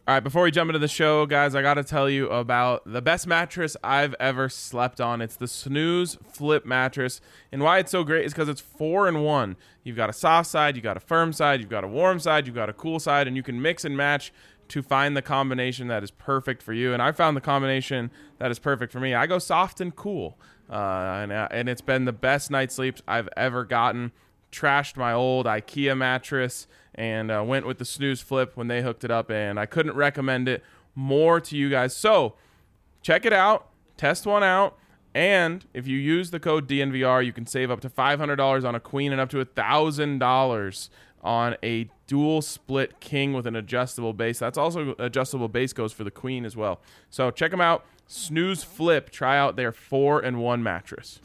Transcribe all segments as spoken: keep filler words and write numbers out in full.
All right, before we jump into the show, guys, I got to tell you about the best mattress I've ever slept on. It's the Snooze Flip mattress. And why it's so great is because it's four in one. You've got a soft side, you've got a firm side, you've got a warm side, you've got a cool side, and you can mix and match to find the combination that is perfect for you. And I found the combination that is perfect for me. I go soft and cool, uh, and, uh, and it's been the best night's sleeps I've ever gotten. Trashed my old IKEA mattress and uh, went with the Snooze Flip when they hooked it up, and I couldn't recommend it more to you guys. So check it out, test one out, and if you use the code D N V R, you can save up to five hundred dollars on a queen and up to one thousand dollars on a dual split king with an adjustable base. That's also adjustable base goes for the queen as well. So check them out. Snooze Flip. Try out their four in one mattress.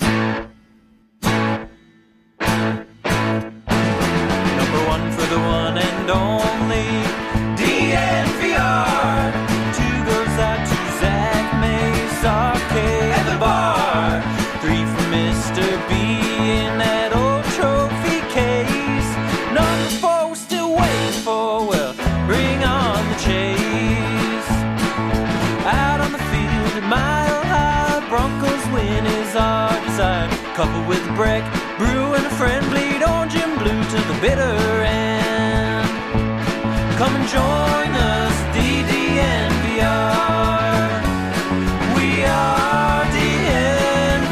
One for the one and only D N V R. Two goes out to Zach Mace, Arcade, and the bar. Three for Mister B in that old trophy case. Number four we're still waiting for, well, bring on the chase. Out on the field at Mile High, Broncos win is our desire. Coupled with Breck, Brew, and a friend bleed orange and blue to the bitter end. Come and join us, D D N V R. We are D N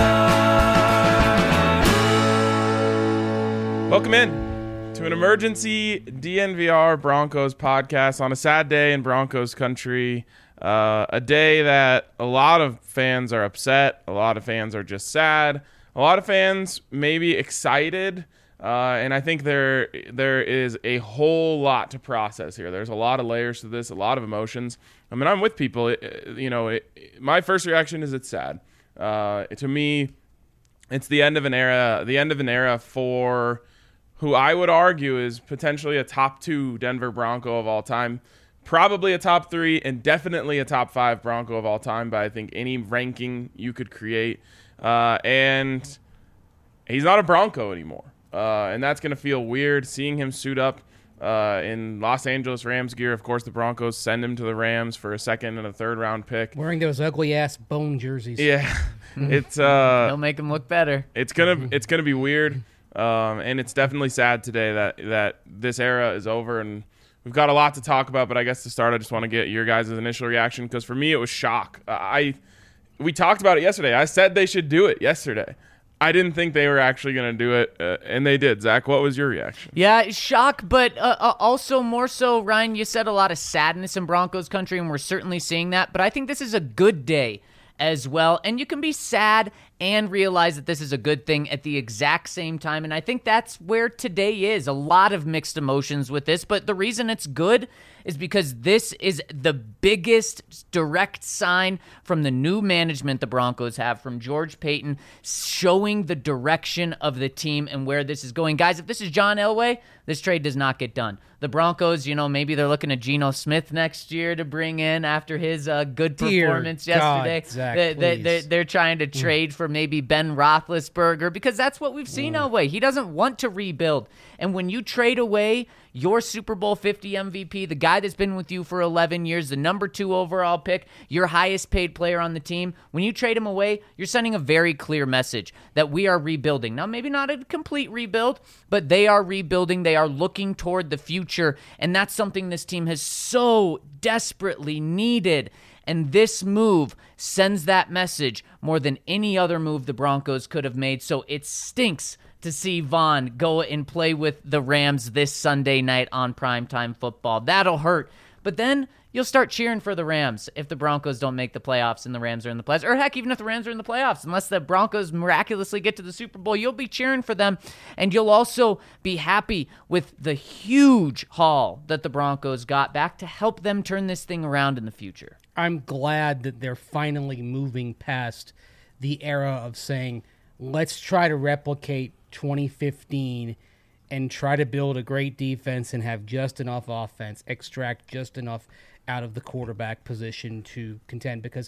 V R. Welcome in to an emergency D N V R Broncos podcast on a sad day in Broncos country. Uh, a day that a lot of fans are upset. A lot of fans are just sad. A lot of fans may be excited. Uh, and I think there there is a whole lot to process here. There's a lot of layers to this, a lot of emotions. I mean, I'm with people. It, you know, it, my first reaction is it's sad. Uh, to me, it's the end of an era. The end of an era for who I would argue is potentially a top two Denver Bronco of all time, probably a top three, and definitely a top five Bronco of all time by I think any ranking you could create. Uh, and he's not a Bronco anymore. Uh, and that's going to feel weird seeing him suit up uh, in Los Angeles Rams gear. Of course, the Broncos send him to the Rams for a second and a third round pick. Wearing those ugly ass bone jerseys. Yeah, it's uh, they'll make him look better. It's gonna it's gonna be weird, um, and it's definitely sad today that that this era is over. And we've got a lot to talk about. But I guess to start, I just want to get your guys' initial reaction because for me it was shock. I we talked about it yesterday. I said they should do it yesterday. I didn't think they were actually going to do it, uh, and they did. Zach, what was your reaction? Yeah, shock, but uh, uh, also more so, Ryan, you said a lot of sadness in Broncos country, and we're certainly seeing that, but I think this is a good day as well, and you can be sad and realize that this is a good thing at the exact same time, and I think that's where today is. A lot of mixed emotions with this, but the reason it's good is because this is the biggest direct sign from the new management the Broncos have, from George Paton, showing the direction of the team and where this is going. Guys, if this is John Elway, this trade does not get done. The Broncos, you know, maybe they're looking at Geno Smith next year to bring in after his uh, good performance Dear yesterday. God, Zach, they, they, please. they, they're trying to trade mm. for maybe Ben Roethlisberger because that's what we've seen mm. Elway. He doesn't want to rebuild. And when you trade away your Super Bowl fifty M V P, the guy that's been with you for eleven years, the number two overall pick, your highest paid player on the team, when you trade him away, you're sending a very clear message that we are rebuilding. Now, maybe not a complete rebuild, but they are rebuilding. They are looking toward the future, and that's something this team has so desperately needed. And this move sends that message more than any other move the Broncos could have made. So it stinks to see Von go and play with the Rams this Sunday night on primetime football. That'll hurt. But then you'll start cheering for the Rams if the Broncos don't make the playoffs and the Rams are in the playoffs. Or heck, even if the Rams are in the playoffs, unless the Broncos miraculously get to the Super Bowl, you'll be cheering for them. And you'll also be happy with the huge haul that the Broncos got back to help them turn this thing around in the future. I'm glad that they're finally moving past the era of saying, let's try to replicate twenty fifteen and try to build a great defense and have just enough offense, extract just enough out of the quarterback position to contend, because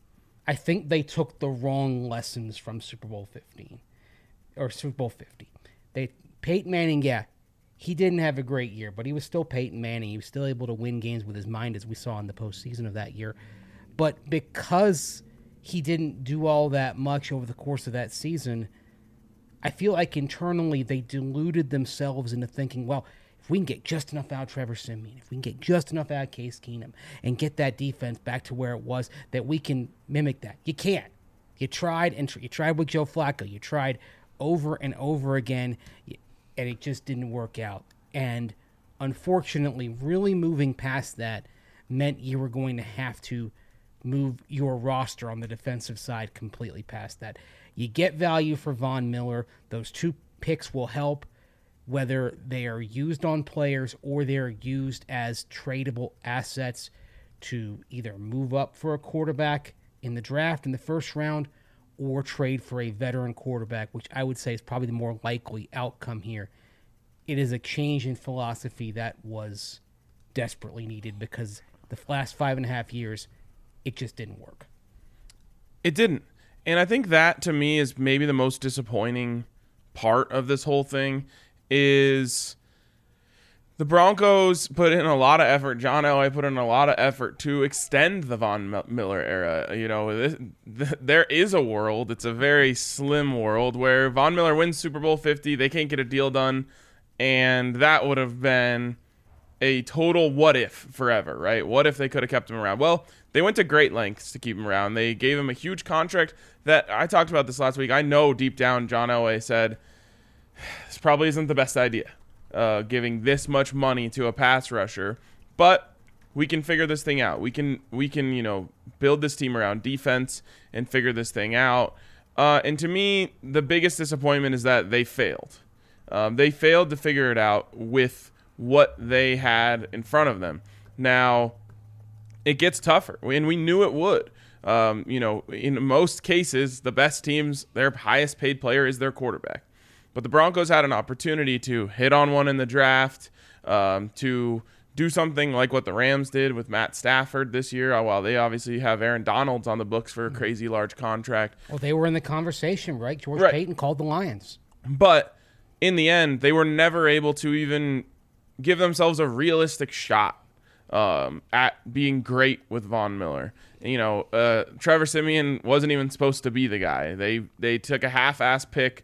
I think they took the wrong lessons from Super Bowl fifteen or Super Bowl fifty. They Peyton Manning, yeah, he didn't have a great year, but he was still Peyton Manning. He was still able to win games with his mind, as we saw in the postseason of that year. But because he didn't do all that much over the course of that season, I feel like internally they deluded themselves into thinking, well, if we can get just enough out of Trevor Siemian, if we can get just enough out of Case Keenum and get that defense back to where it was, that we can mimic that. You can't. You tried, and tr- you tried with Joe Flacco. You tried over and over again, and it just didn't work out. And unfortunately, really moving past that meant you were going to have to move your roster on the defensive side completely past that. You get value for Von Miller. Those two picks will help, whether they are used on players or they're used as tradable assets to either move up for a quarterback in the draft in the first round or trade for a veteran quarterback, which I would say is probably the more likely outcome here. It is a change in philosophy that was desperately needed because the last five and a half years, it just didn't work. It didn't. And I think that, to me, is maybe the most disappointing part of this whole thing is the Broncos put in a lot of effort. John Elway put in a lot of effort to extend the Von Miller era. You know, this, th- there is a world, it's a very slim world, where Von Miller wins Super Bowl fifty, they can't get a deal done, and that would have been a total what if forever, right? What if they could have kept him around? Well, they went to great lengths to keep him around. They gave him a huge contract that, I talked about this last week, I know deep down John Elway said, this probably isn't the best idea, uh, giving this much money to a pass rusher, but we can figure this thing out. We can, we can, you know, build this team around defense and figure this thing out. Uh, and to me, the biggest disappointment is that they failed. Um, they failed to figure it out with what they had in front of them. Now, it gets tougher, and we knew it would. Um, you know, in most cases, the best teams, their highest paid player is their quarterback. But the Broncos had an opportunity to hit on one in the draft, um, to do something like what the Rams did with Matt Stafford this year, while they obviously have Aaron Donalds on the books for a crazy large contract. Well, they were in the conversation, right? George Right. Payton called the Lions. But in the end, they were never able to even give themselves a realistic shot um, at being great with Von Miller. You know, uh, Trevor Siemian wasn't even supposed to be the guy. They they took a half-ass pick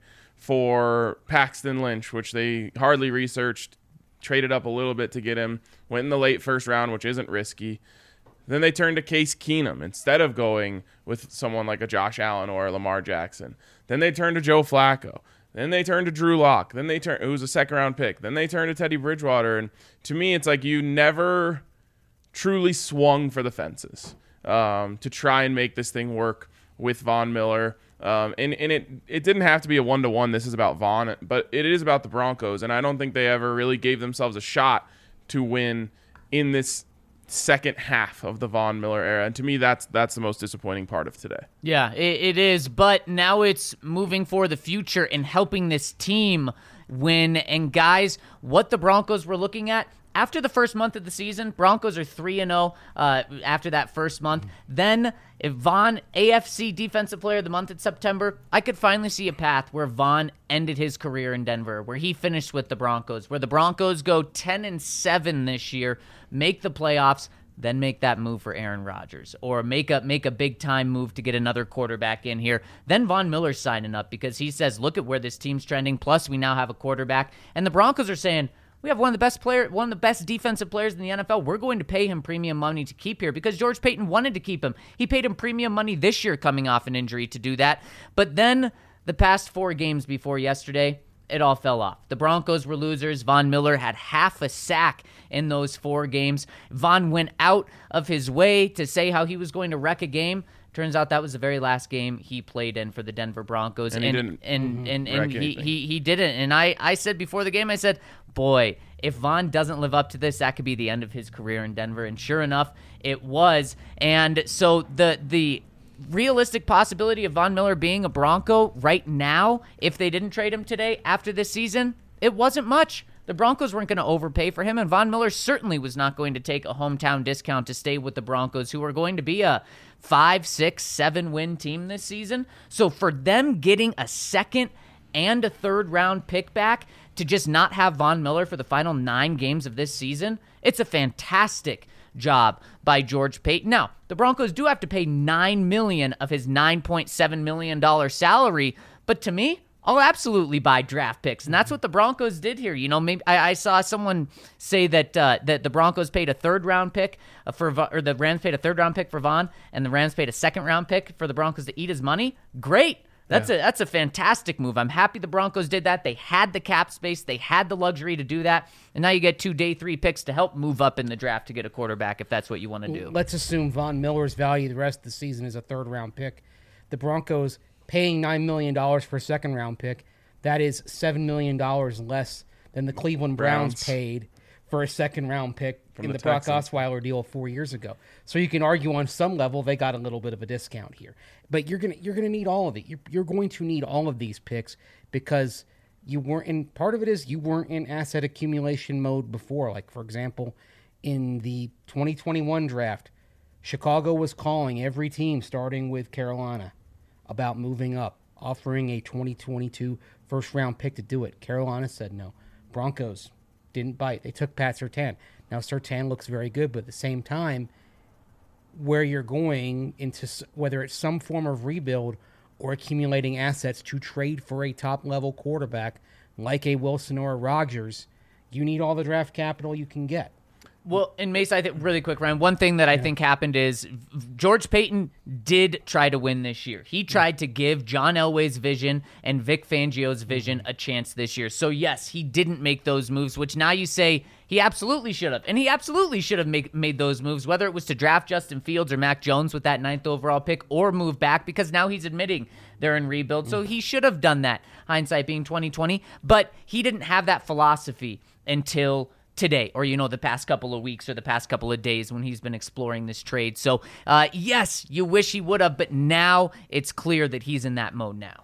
for Paxton Lynch, which they hardly researched, traded up a little bit to get him, went in the late first round, which isn't risky. Then they turned to Case Keenum instead of going with someone like a Josh Allen or a Lamar Jackson. Then they turned to Joe Flacco. Then they turned to Drew Lock. Then they turned, it was a second round pick. Then they turned to Teddy Bridgewater. And to me, it's like you never truly swung for the fences um, to try and make this thing work with Von Miller. Um, and and it, it didn't have to be a one-to-one. This is about Von, but it is about the Broncos. And I don't think they ever really gave themselves a shot to win in this second half of the Von Miller era. And to me, that's that's the most disappointing part of today. Yeah, it, it is. But now it's moving for the future and helping this team win. And guys, what the Broncos were looking at after the first month of the season, Broncos are three and oh uh, after that first month. Then if Von, A F C Defensive Player of the Month in September, I could finally see a path where Von ended his career in Denver, where he finished with the Broncos, where the Broncos go ten and seven this year, make the playoffs, then make that move for Aaron Rodgers, or make a make a big time move to get another quarterback in here. Then Von Miller's signing up because he says, look at where this team's trending. Plus, we now have a quarterback, and the Broncos are saying, we have one of the best player, one of the best defensive players in the N F L. We're going to pay him premium money to keep here because George Payton wanted to keep him. He paid him premium money this year coming off an injury to do that. But then the past four games before yesterday, it all fell off. The Broncos were losers. Von Miller had half a sack in those four games. Von went out of his way to say how he was going to wreck a game. Turns out that was the very last game he played in for the Denver Broncos. And he didn't and, and, and he, anything. he, he didn't. And I, I said before the game, I said, boy, if Von doesn't live up to this, that could be the end of his career in Denver. And sure enough, it was. And so the the realistic possibility of Von Miller being a Bronco right now, if they didn't trade him today after this season, it wasn't much. The Broncos weren't going to overpay for him, and Von Miller certainly was not going to take a hometown discount to stay with the Broncos, who are going to be a five, six, seven win team this season. So for them getting a second and a third round pick back, to just not have Von Miller for the final nine games of this season, it's a fantastic job by George Paton. Now, the Broncos do have to pay nine million dollars of his nine point seven million dollars salary, but to me, I'll absolutely buy draft picks, and that's what the Broncos did here. You know, maybe I, I saw someone say that uh, that the Broncos paid a third round pick for, or the Rams paid a third round pick for Von, and the Rams paid a second round pick for the Broncos to eat his money. Great, that's yeah. a that's a fantastic move. I'm happy the Broncos did that. They had the cap space, they had the luxury to do that, and now you get two day three picks to help move up in the draft to get a quarterback if that's what you want to do. Let's assume Von Miller's value the rest of the season is a third round pick. The Broncos paying nine million dollars for a second-round pick, that is seven million dollars less than the Cleveland Browns, Browns. paid for a second-round pick From in the, the Brock Osweiler deal four years ago. So you can argue on some level they got a little bit of a discount here. But you're gonna you're gonna need all of it. You're, you're going to need all of these picks because you weren't in. Part of it is you weren't in asset accumulation mode before. Like for example, in the twenty twenty-one draft, Chicago was calling every team, starting with Carolina, about moving up, offering a twenty twenty-two first-round pick to do it. Carolina said no. Broncos didn't bite. They took Pat Surtain. Now, Surtain looks very good, but at the same time, where you're going into, whether it's some form of rebuild or accumulating assets to trade for a top-level quarterback like a Wilson or a Rodgers, you need all the draft capital you can get. Well, and Mace, I think really quick, Ryan, one thing that I yeah. think happened is George Paton did try to win this year. He tried to give John Elway's vision and Vic Fangio's vision a chance this year. So, yes, he didn't make those moves, which now you say he absolutely should have. And he absolutely should have make, made those moves, whether it was to draft Justin Fields or Mac Jones with that ninth overall pick or move back, because now he's admitting they're in rebuild. So he should have done that, hindsight being twenty twenty. But he didn't have that philosophy until today, or, you know, the past couple of weeks or the past couple of days when he's been exploring this trade. So, uh, yes, you wish he would have, but now it's clear that he's in that mode now.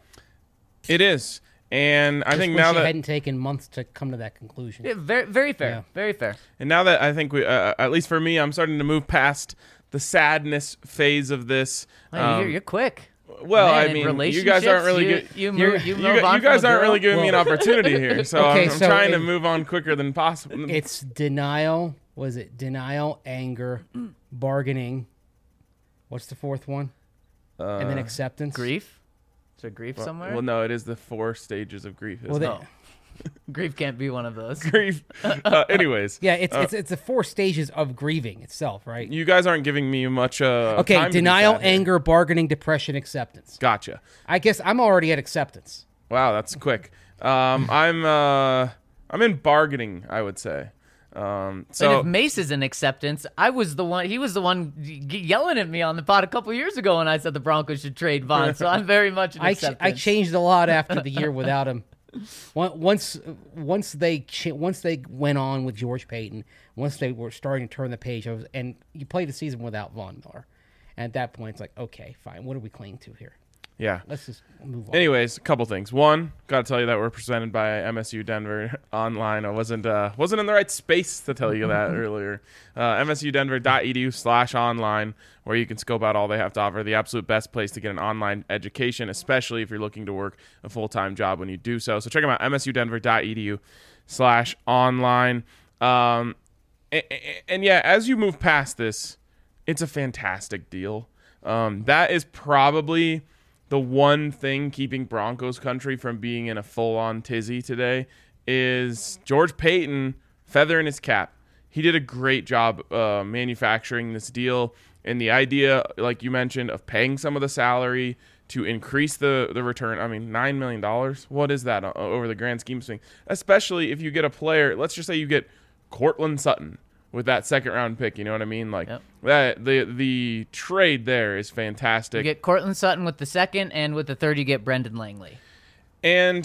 It is. And I Just think wish now it that hadn't taken months to come to that conclusion. Yeah, very, very fair. Yeah. Very fair. And now that I think we, uh, at least for me, I'm starting to move past the sadness phase of this. Wow, Um, you're, you're quick. Well, Man, I in mean, you guys aren't really you, good. You, You, move, you, you, move gu- on you guys from a aren't really girl? giving me an opportunity here, so Okay, I'm, I'm so trying to it- move on quicker than possible. It's denial. Was it denial, anger, bargaining? What's the fourth one? Uh, And then acceptance. Grief? Is there grief well, somewhere? well, no, it is the four stages of grief. Well, Isn't they- it? Oh. Grief can't be one of those. Grief. Uh, anyways, Yeah, it's uh, it's it's the four stages of grieving itself, right? you guys aren't giving me much. Uh, Okay, time to be denial, sad here. anger, bargaining, depression, acceptance. Gotcha. I guess I'm already at acceptance. Wow, that's quick. Um, I'm uh, I'm in bargaining, I would say. Um, And so if Mace is in acceptance, I was the one. He was the one y- yelling at me on the pod a couple years ago when I said the Broncos should trade Von. So I'm very much in I ch- acceptance. I changed a lot after the year without him. On- Once once they ch- once they went on with George Paton, once they were starting to turn the page, I was, and you played the season without Von Miller. And at that point, it's like, okay, fine. What are we clinging to here? yeah. Let's just move on. Anyways, a couple things. One, got to tell you that we're presented by M S U Denver online. I wasn't uh, wasn't in the right space to tell you that earlier. Uh, M S U Denver dot E D U slash online, where you can scope out all they have to offer. The absolute best place to get an online education, especially if you're looking to work a full-time job when you do so. So check them out, M S U Denver dot E D U slash online. Um, and, and yeah, as you move past this, it's a fantastic deal. Um, that is probably the one thing keeping Broncos country from being in a full-on tizzy today is George Paton feathering his cap. He did a great job uh, manufacturing this deal, and the idea, like you mentioned, of paying some of the salary to increase the, the return. I mean, nine million dollars, what is that uh, over the grand scheme of things? Especially if you get a player, let's just say you get Cortland Sutton with that second round pick, you know what I mean? Like Yep. that, the the trade there is fantastic. You get Cortland Sutton with the second, and with the third, you get Brendan Langley. And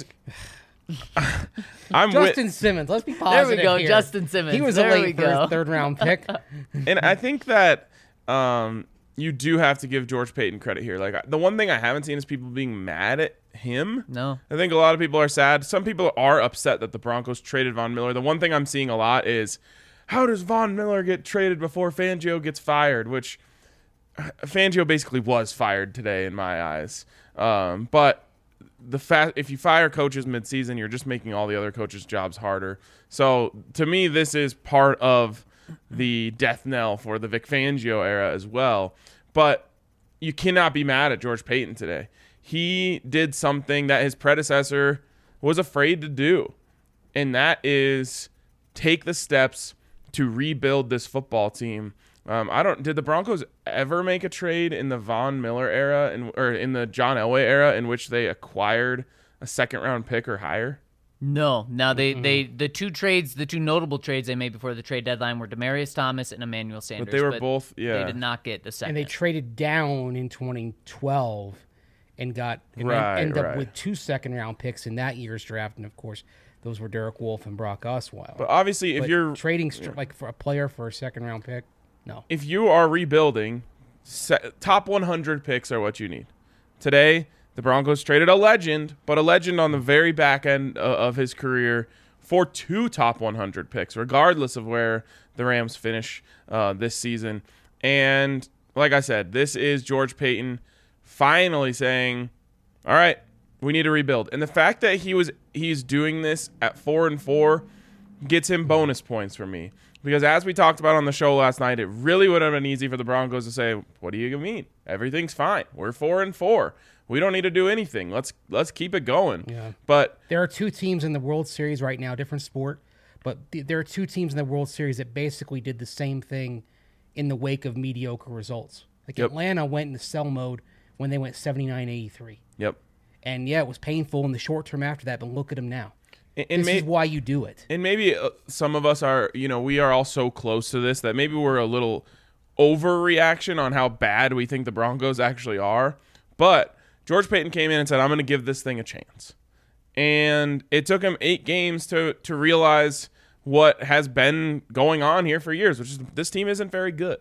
I'm Justin with, Simmons. Let's be There positive we go, here. Justin Simmons. He was There a we late go. first, third round pick. and I think that um, you do have to give George Paton credit here. Like the one thing I haven't seen is people being mad at him. No. I think a lot of people are sad. Some people are upset that the Broncos traded Von Miller. The one thing I'm seeing a lot is, how does Von Miller get traded before Fangio gets fired? Which Fangio basically was fired today in my eyes. Um, but the fa- if you fire coaches midseason, you're just making all the other coaches' jobs harder. So to me, this is part of the death knell for the Vic Fangio era as well. But you cannot be mad at George Paton today. He did something that his predecessor was afraid to do, and that is take the steps to rebuild this football team. Um, I don't. Did the Broncos ever make a trade in the Von Miller era, in, or in the John Elway era, in which they acquired a second round pick or higher? No, no. They, mm-hmm. they the two trades, the two notable trades they made before the trade deadline were Demaryius Thomas and Emmanuel Sanders. But they were but both, yeah. They did not get the second. And they traded down in twenty twelve and got and right, ended right. up with two second round picks in that year's draft, and of course those were Derek Wolfe and Brock Osweiler. But obviously, if but you're trading yeah. like for a player for a second round pick, no. If you are rebuilding, set, top one hundred picks are what you need. Today, the Broncos traded a legend, but a legend on the very back end of his career for two top one hundred picks, regardless of where the Rams finish uh, this season. And like I said, this is George Paton finally saying, all right, we need to rebuild. And the fact that he was he's doing this at four and four gets him bonus points for me. Because as we talked about on the show last night, it really would have been easy for the Broncos to say, what do you mean? Everything's fine. We're four and four. We don't need to do anything. Let's let's keep it going. Yeah. But there are two teams in the World Series right now, different sport, but th- there are two teams in the World Series that basically did the same thing in the wake of mediocre results. Like Yep. Atlanta went into sell mode when they went seventy-nine eighty-three. Yep. And yeah, it was painful in the short term after that, but look at them now. And, and this may- is why you do it. And maybe uh, some of us are, you know, we are all so close to this that maybe we're a little overreaction on how bad we think the Broncos actually are. But George Paton came in and said, I'm going to give this thing a chance. And it took him eight games to to realize what has been going on here for years, which is this team isn't very good.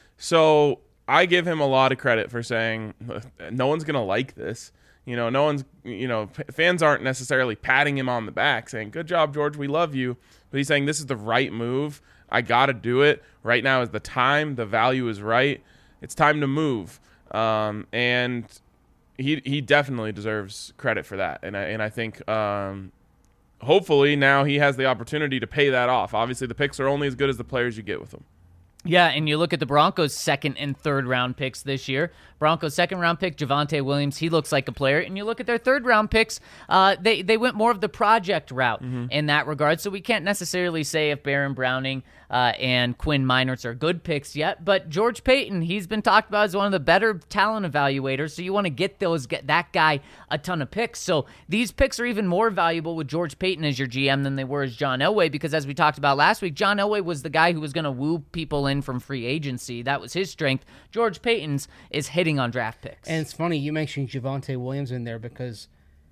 So I give him a lot of credit for saying, no one's going to like this. You know, no one's, you know, fans aren't necessarily patting him on the back saying, good job, George, we love you. But he's saying, this is the right move. I got to do it. Right now is the time. The value is right. It's time to move. Um, and he he definitely deserves credit for that. And I, and I think um, hopefully now he has the opportunity to pay that off. Obviously, the picks are only as good as the players you get with them. Yeah, and you look at the Broncos' second and third round picks this year. Broncos' second round pick, Javonte Williams, he looks like a player. And you look at their third round picks, uh, they, they went more of the project route mm-hmm. in that regard. So we can't necessarily say if Baron Browning uh, and Quinn Meinerz are good picks yet. But George Paton, he's been talked about as one of the better talent evaluators. So you want to get those get that guy a ton of picks. So these picks are even more valuable with George Paton as your G M than they were as John Elway. Because as we talked about last week, John Elway was the guy who was going to woo people in from free agency. That was his strength. George Paton's is hitting on draft picks. And it's funny you mentioned Javonte Williams in there because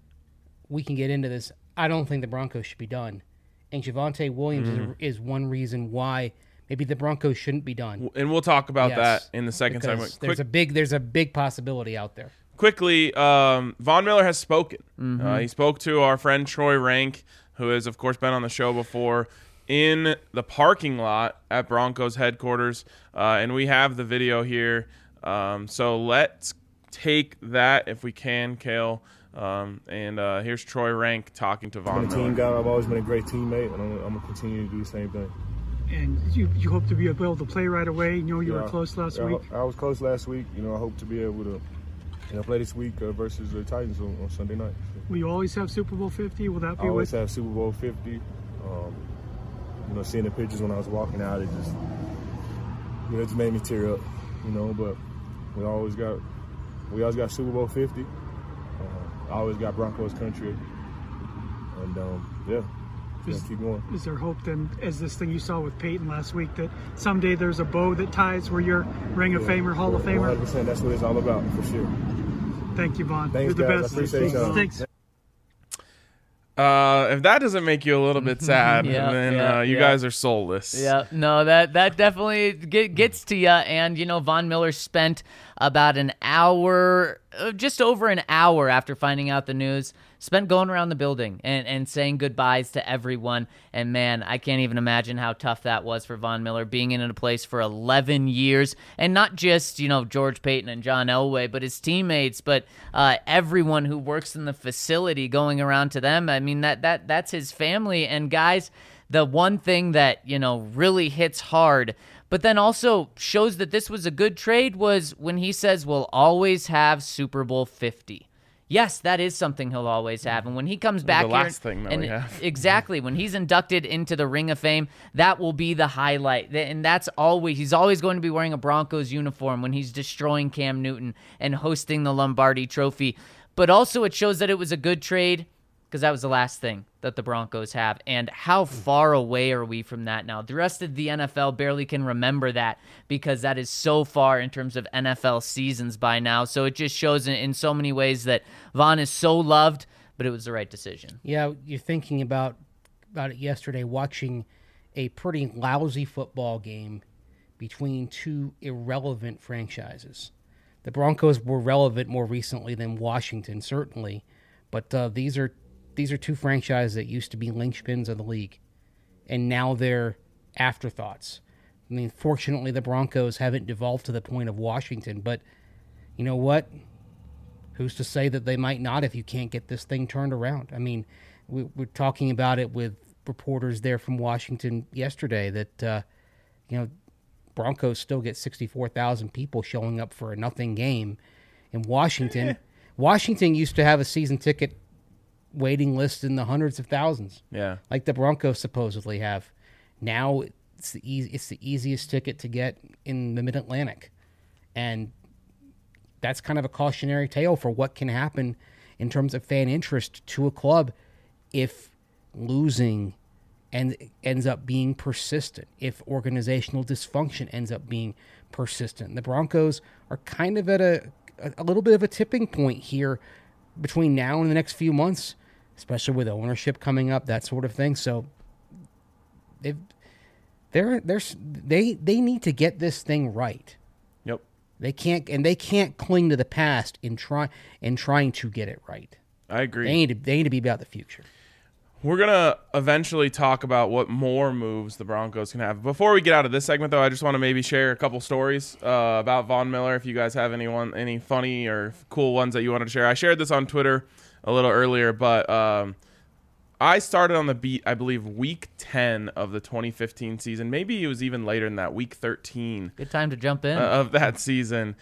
we can get into this. I don't think the Broncos should be done. And Javonte Williams mm. is, is one reason why maybe the Broncos shouldn't be done. And we'll talk about yes, that in the second segment. There's Quick, a big there's a big possibility out there. Quickly, um, Von Miller has spoken. Mm-hmm. Uh, he spoke to our friend Troy Rank, who has, of course, been on the show before, in the parking lot at Broncos headquarters. Uh, and we have the video here. Um, so let's take that if we can, Kale. Um, and uh, here's Troy Rank talking to Von I'm a Miller. team guy. I've always been a great teammate, and I'm, I'm going to continue to do the same thing. And you, you hope to be able to play right away. You know you yeah, were close last yeah, week. I was close last week. You know, I hope to be able to you know, play this week uh, versus the Titans on, on Sunday night. So. Will you always have Super Bowl fifty? Will that be I always with? have Super Bowl fifty. Um, you know, seeing the pictures when I was walking out, it just, you know, it just made me tear up. You know, but we always got, we always got Super Bowl fifty. Uh, I always got Broncos country, and um, yeah. Is, keep going. Is there hope then, as this thing you saw with Paton last week, that someday there's a bow that ties where you're Ring of yeah. Famer, Hall of Famer? one hundred percent. That's what it's all about, for sure. Thank you, Von. Thanks, you're the guys. best. I appreciate y'all. Thanks. Uh, if that doesn't make you a little bit sad, Yeah, then yeah, uh, you yeah. guys are soulless. Yeah, no, that that definitely get, gets to you. And, you know, Von Miller spent about an hour uh, just over an hour after finding out the news, spent going around the building and, and saying goodbyes to everyone. And man, I can't even imagine how tough that was for Von Miller, being in a place for eleven years, and not just, you know, George Payton and John Elway, but his teammates, but uh, everyone who works in the facility, going around to them. I mean, that that that's his family. And guys, the one thing that, you know, really hits hard, but then also shows that this was a good trade, was when he says we'll always have Super Bowl fifty. Yes, that is something he'll always have. And when he comes back the here, last thing that and we have. exactly, when he's inducted into the Ring of Fame, that will be the highlight. And that's always, he's always going to be wearing a Broncos uniform when he's destroying Cam Newton and hosting the Lombardi Trophy. But also it shows that it was a good trade, because that was the last thing that the Broncos have. And how far away are we from that now? The rest of the N F L barely can remember that, because that is so far in terms of N F L seasons by now. So it just shows in, in so many ways that Von is so loved, but it was the right decision. Yeah, you're thinking about about it yesterday, watching a pretty lousy football game between two irrelevant franchises. The Broncos were relevant more recently than Washington, certainly, but uh, these are These are two franchises that used to be linchpins of the league, and now they're afterthoughts. I mean, fortunately, the Broncos haven't devolved to the point of Washington, but you know what? Who's to say that they might not if you can't get this thing turned around? I mean, we, we're talking about it with reporters there from Washington yesterday that, uh, you know, Broncos still get sixty-four thousand people showing up for a nothing game in Washington. Washington used to have a season ticket waiting list in the hundreds of thousands. Yeah. Like the Broncos supposedly have. Now it's the easy, it's the easiest ticket to get in the Mid-Atlantic. And that's kind of a cautionary tale for what can happen in terms of fan interest to a club if losing and ends up being persistent, if organizational dysfunction ends up being persistent. The Broncos are kind of at a a little bit of a tipping point here between now and the next few months, especially with ownership coming up, that sort of thing. So they've, they're, they're, they they need to get this thing right. Yep. They can't, and they can't cling to the past in try in trying to get it right. I agree. They need to, they need to be about the future. We're going to eventually talk about what more moves the Broncos can have. Before we get out of this segment, though, I just want to maybe share a couple stories uh, about Von Miller. If you guys have anyone, any funny or cool ones that you wanted to share. I shared this on Twitter a little earlier, but um, I started on the beat, I believe, week ten of the twenty fifteen season. Maybe it was even later than that, week thirteen. Good time to jump in. Uh, of that season.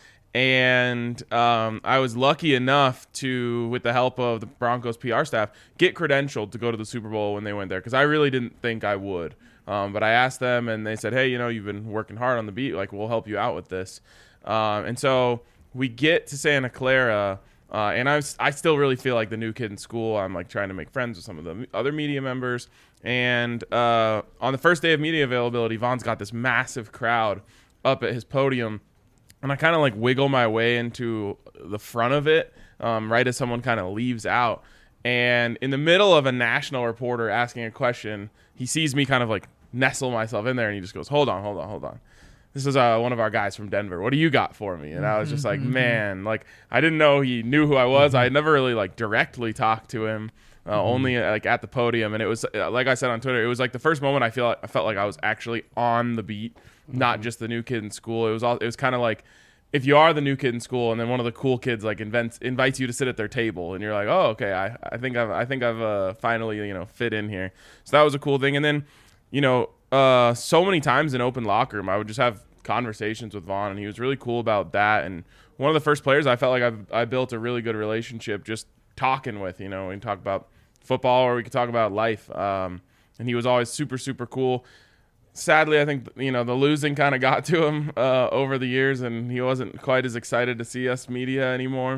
And um, I was lucky enough to, with the help of the Broncos P R staff, get credentialed to go to the Super Bowl when they went there, because I really didn't think I would. Um, but I asked them, and they said, hey, you know, you've been working hard on the beat. Like, we'll help you out with this. Um, and so we get to Santa Clara, uh, and I, was, I still really feel like the new kid in school. I'm, like, trying to make friends with some of the other media members. And uh, on the first day of media availability, Von's got this massive crowd up at his podium. And I kind of like wiggle my way into the front of it um, right as someone kind of leaves out. And in the middle of a national reporter asking a question, he sees me kind of like nestle myself in there, and he just goes, hold on, hold on, hold on. This is uh, one of our guys from Denver. What do you got for me? And I was just like, man, like I didn't know he knew who I was. I had never really like directly talked to him, uh, mm-hmm. only like at the podium. And it was, uh, like I said on Twitter, it was like the first moment I feel like, I felt like I was actually on the beat. Not just the new kid in school. It was all. It was kind of like if you are the new kid in school, and then one of the cool kids like invents invites you to sit at their table, and you're like, oh, okay, I, I think I've I think I've uh, finally you know fit in here. So that was a cool thing. And then you know, uh, so many times in open locker room, I would just have conversations with Von, and he was really cool about that. And one of the first players I felt like I've, I built a really good relationship just talking with. You know, we can talk about football, or we could talk about life. Um, and he was always super super cool. Sadly, I think, you know, the losing kind of got to him uh, over the years, and he wasn't quite as excited to see us media anymore.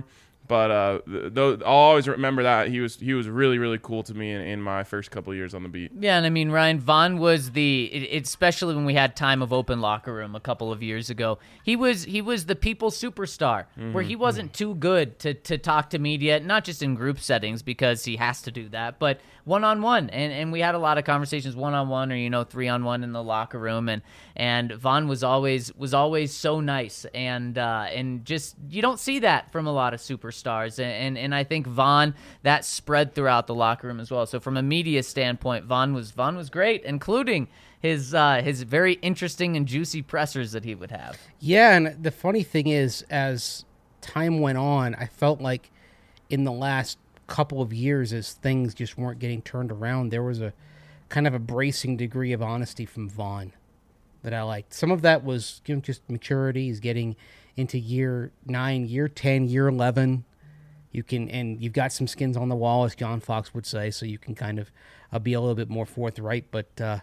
But uh, th- th- I'll always remember that he was he was really really cool to me in, in my first couple of years on the beat. Yeah, and I mean, Ryan, Vaughn was the, it, especially when we had time of open locker room a couple of years ago, he was he was the people's superstar, mm-hmm. where he wasn't too good to, to talk to media, not just in group settings because he has to do that, but one-on-one. And and we had a lot of conversations one-on-one or, you know, three-on-one in the locker room. And, and Vaughn was always was always so nice. And, uh, and just, you don't see that from a lot of superstars. And, and, and I think Vaughn, that spread throughout the locker room as well. So from a media standpoint, Vaughn was Vaughn was great, including his uh, his very interesting and juicy pressers that he would have. Yeah, and the funny thing is, as time went on, I felt like in the last couple of years, as things just weren't getting turned around, there was a kind of a bracing degree of honesty from Vaughn that I liked. Some of that was, you know, just maturity. He's getting into year nine, year ten, year eleven. You can, and you've got some skins on the wall, as John Fox would say, so you can kind of uh, be a little bit more forthright. But uh,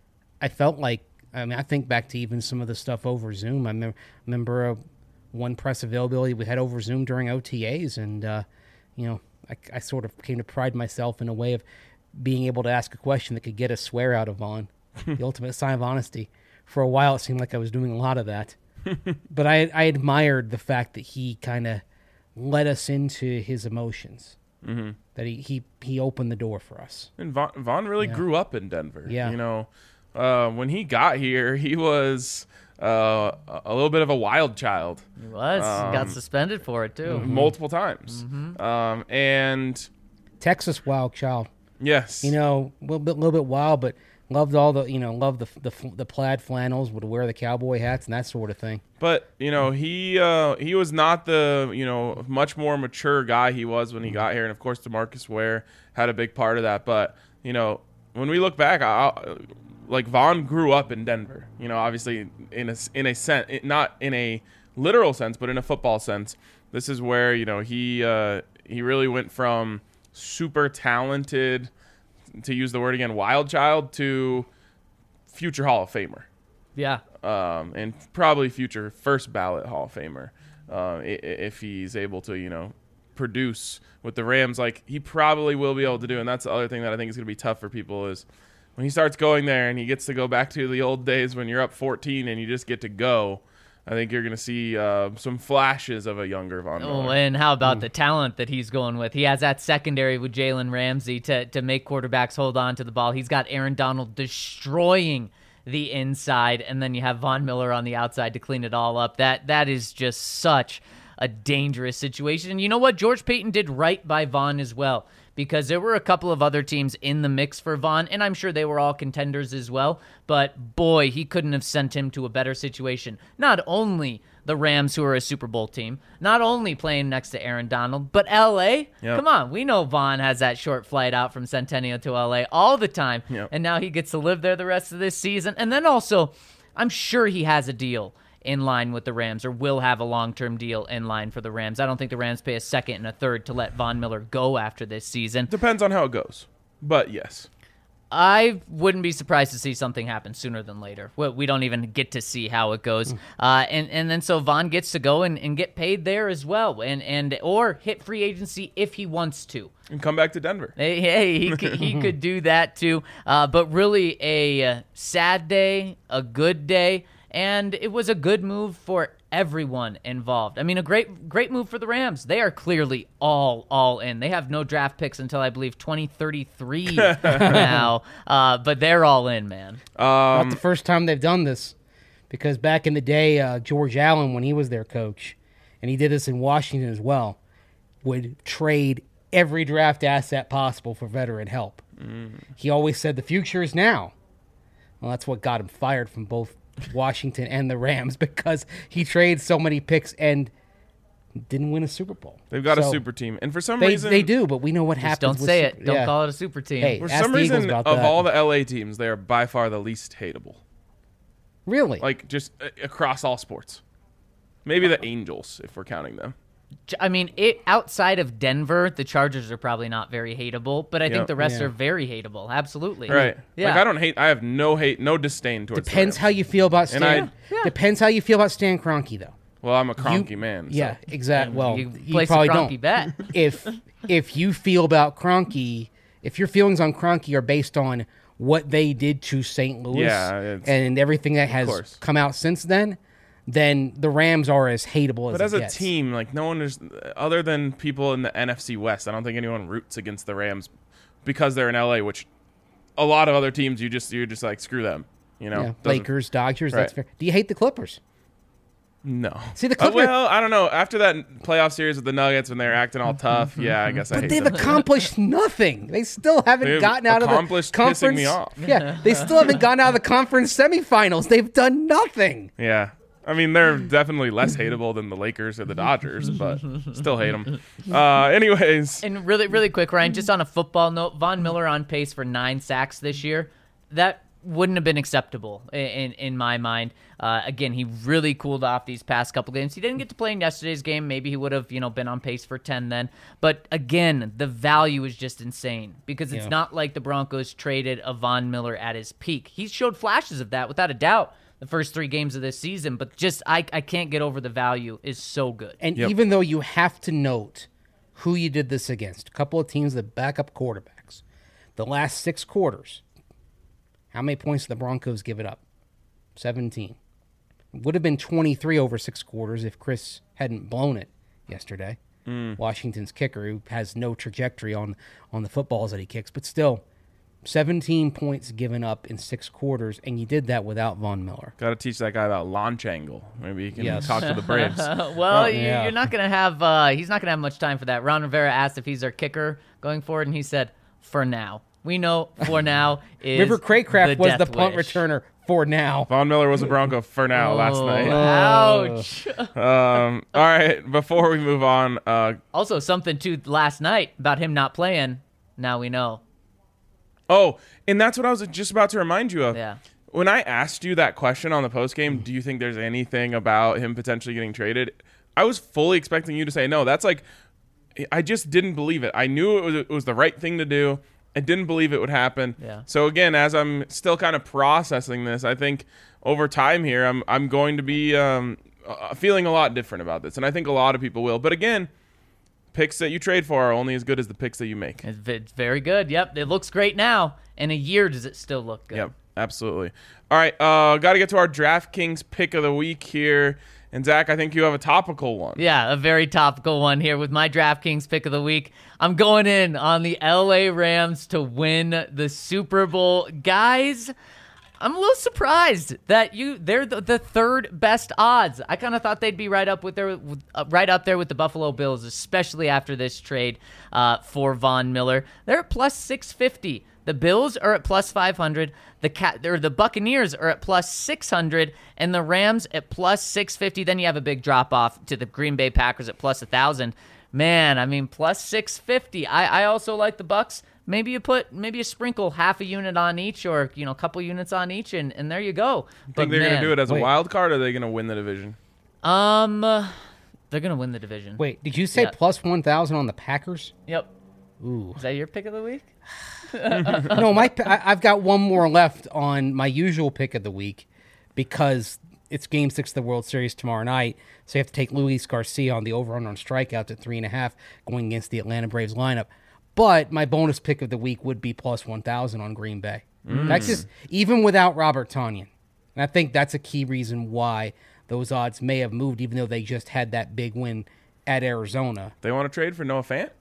I felt like, I mean, I think back to even some of the stuff over Zoom. I mem- remember uh, one press availability we had over Zoom during O T As, and, uh, you know, I, I sort of came to pride myself in a way of being able to ask a question that could get a swear out of Vaughn, the ultimate sign of honesty. For a while, it seemed like I was doing a lot of that. But I, I admired the fact that he kind of let us into his emotions, mm-hmm. that he, he, he opened the door for us. And Vaughn, Vaughn really yeah. grew up in Denver. Yeah. You know, uh, when he got here, he was uh, a little bit of a wild child. He was. Um, he got suspended for it, too. Mm-hmm. Multiple times. Mm-hmm. Um, and Texas wild child. Yes. You know, a little bit, little bit wild, but loved all the, you know, loved the, the the plaid flannels, would wear the cowboy hats and that sort of thing. But, you know, he uh, he was not the, you know, much more mature guy he was when he got here. And, of course, DeMarcus Ware had a big part of that. But, you know, when we look back, I, like, Vaughn grew up in Denver. You know, obviously in a, in a sense, not in a literal sense, but in a football sense. This is where, you know, he uh, he really went from super talented, to use the word again, wild child, to future Hall of Famer. Yeah. Um, and probably future first ballot Hall of Famer, uh, if he's able to, you know, produce with the Rams like he probably will be able to do. And that's the other thing that I think is going to be tough for people is when he starts going there and he gets to go back to the old days when you're up fourteen and you just get to go. I think you're going to see uh, some flashes of a younger Von Miller. Oh, and how about mm. the talent that he's going with? He has that secondary with Jalen Ramsey to, to make quarterbacks hold on to the ball. He's got Aaron Donald destroying the inside, and then you have Von Miller on the outside to clean it all up. That That is just such a dangerous situation. And you know what? George Paton did right by Vaughn as well, because there were a couple of other teams in the mix for Vaughn, and I'm sure they were all contenders as well. But, boy, he couldn't have sent him to a better situation. Not only the Rams, who are a Super Bowl team, not only playing next to Aaron Donald, but L A. Yep. Come on, we know Vaughn has that short flight out from Centennial to L A all the time, yep. and now he gets to live there the rest of this season. And then also, I'm sure he has a deal in line with the Rams, or will have a long-term deal in line for the Rams. I don't think the Rams pay a second and a third to let Von Miller go after this season. Depends on how it goes, but yes. I wouldn't be surprised to see something happen sooner than later. We don't even get to see how it goes. Uh, and, and then so Vaughn gets to go and, and get paid there as well, and, and or hit free agency if he wants to. And come back to Denver. Hey, hey he, could, he could do that too. Uh, but really a sad day, a good day, and it was a good move for everyone involved. I mean, a great great move for the Rams. They are clearly all all in. They have no draft picks until I believe twenty thirty-three now, uh, but they're all in, man. Um, Not the first time they've done this, because back in the day, uh, George Allen, when he was their coach, and he did this in Washington as well, would trade every draft asset possible for veteran help. Mm. He always said the future is now. Well, that's what got him fired from both Washington and the Rams, because he traded so many picks and didn't win a Super Bowl. They've got so a super team, and for some they, reason they do. But we know what just happens. Don't with say super, it. Don't yeah. call it a super team. Hey, for ask some the reason, about of that. all the L A teams, they are by far the least hateable. Really? Like just uh, across all sports. Maybe the Angels, if we're counting them. I mean, it outside of Denver, the Chargers are probably not very hateable, but I Yep. think the rest Yeah. are very hateable. Absolutely. Right. Yeah. Like I don't hate. I have no hate, no disdain towards. Depends the how you feel about And Stan. I- Depends how you feel about Stan Kroenke, though. Well, I'm a Kroenke You- man. so- Yeah, exactly. Well, you you, place probably a don't. Kroenke bet. if if you feel about Kroenke, if your feelings on Kroenke are based on what they did to Saint Louis Yeah, it's- and everything that has course. come out since then, then the Rams are as hateable as But as it a gets. team, like no one is other than people in the N F C West. I don't think anyone roots against the Rams because they're in L A, which a lot of other teams you just you're just like screw them. You know, Yeah, Doesn't- Lakers, Dodgers, that's Right. fair. Do you hate the Clippers? No. See, the Uh, Clippers- well, I don't know. After that playoff series with the Nuggets when they were acting all tough, yeah, I guess I But hate they've them. accomplished nothing. They still haven't They've gotten out of the accomplished conference. pissing me off. Yeah, they still haven't gotten out of the conference semifinals. They've done nothing. Yeah. I mean, they're definitely less hateable than the Lakers or the Dodgers, but still hate them. Uh, anyways, And really, really quick, Ryan, just on a football note, Von Miller on pace for nine sacks this year. That wouldn't have been acceptable in in, in my mind. Uh, again, he really cooled off these past couple games. He didn't get to play in yesterday's game. Maybe he would have, you know, been on pace for ten then. But again, the value is just insane because it's Yeah. not like the Broncos traded a Von Miller at his peak. He showed flashes of that without a doubt the first three games of this season. But just I I can't get over the value is so good. And Yep. even though you have to note who you did this against, a couple of teams that back up quarterbacks, the last six quarters, how many points did the Broncos give it up? seventeen. It would have been twenty-three over six quarters if Chris hadn't blown it yesterday. Washington's kicker, who has no trajectory on, on the footballs that he kicks, but still, seventeen points given up in six quarters, and you did that without Von Miller. got to teach that guy about launch angle. Maybe he can Yes. talk to the Braves. well, you, yeah. you're not going to have, uh, he's not going to have much time for that. Ron Rivera asked if he's our kicker going forward, and he said, for now. We know for now is River Craycraft the was the death punt wish. returner for now. Von Miller was a Bronco for now last Oh, night. Ouch. Um, all right, before we move on, uh, Also, something too last night about him not playing. Now we know. oh, and that's what I was just about to remind you of. Yeah. When I asked you that question on the postgame, do you think there's anything about him potentially getting traded? I was fully expecting you to say no. That's like, I just didn't believe it. I knew it was, it was the right thing to do. I didn't believe it would happen. Yeah. So again, as I'm still kind of processing this, I think over time here, I'm I'm going to be um, uh, feeling a lot different about this, and I think a lot of people will. But again, picks that you trade for are only as good as the picks that you make. It's, it's very good. Yep. It looks great now. In a year, does it still look good? Yep, absolutely. All right, uh, got to get to our DraftKings pick of the week here. And Zach, I think you have a topical one. Yeah, a very topical one here with my DraftKings pick of the week. I'm going in on the L A Rams to win the Super Bowl. Guys, I'm a little surprised that you they're the, the third best odds. I kind of thought they'd be right up with their with, uh, right up there with the Buffalo Bills, especially after this trade uh, for Von Miller. They're at plus six fifty. The Bills are at plus five hundred. The cat or the Buccaneers are at plus six hundred, and the Rams at plus six fifty. Then you have a big drop off to the Green Bay Packers at plus one thousand. Man, I mean plus six fifty. I, I also like the Bucks. Maybe you put maybe you sprinkle half a unit on each, or you know a couple units on each, and, and there you go. Think they're going to do it as wait. a wild card, or are they going to win the division? Um, uh, they're gonna win the division. Wait, did you say Yeah. plus one thousand on the Packers? Yep. Ooh. Is that your pick of the week? No, my I, I've got one more left on my usual pick of the week because it's Game Six of the World Series tomorrow night. So you have to take Luis Garcia on the over-under on strikeouts at three and a half going against the Atlanta Braves lineup. But my bonus pick of the week would be plus one thousand on Green Bay. That's just even without Robert Tonyan, and I think that's a key reason why those odds may have moved, even though they just had that big win at Arizona. They want to trade for Noah Fant?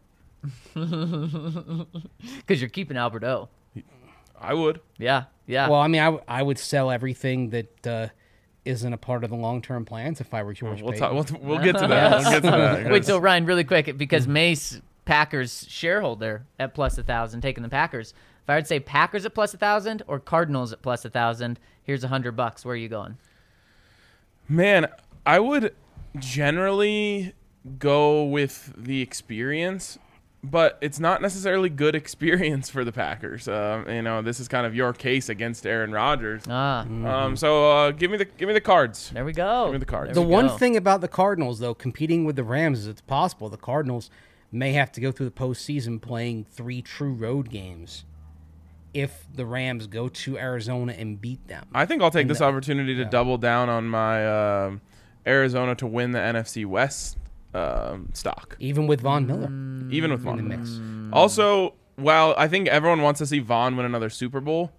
Because you're keeping Albert O. I would. Yeah, yeah. Well, I mean, I, w- I would sell everything that uh, isn't a part of the long-term plans if I were George We'll, Payton. talk, we'll, we'll get to that. We'll get to that. Wait, so Ryan, really quick, because Mace Packers shareholder at plus a thousand, taking the Packers. If I would say Packers at plus a thousand or Cardinals at plus a thousand, here's a hundred bucks. Where are you going? Man, I would generally go with the experience, but it's not necessarily good experience for the Packers. Um, you know, this is kind of your case against Aaron Rodgers. Ah, Um, so uh, give me the give me the cards. there we go. Give me the cards. The There we one go. thing about the Cardinals, though, competing with the Rams, is it's possible the Cardinals may have to go through the postseason playing three true road games if the Rams go to Arizona and beat them. I think I'll take this opportunity to double down on my um Arizona to win the N F C West um, stock, Even with Von Miller. even with in the Vaughn. mix. Also, while I think everyone wants to see Vaughn win another Super Bowl,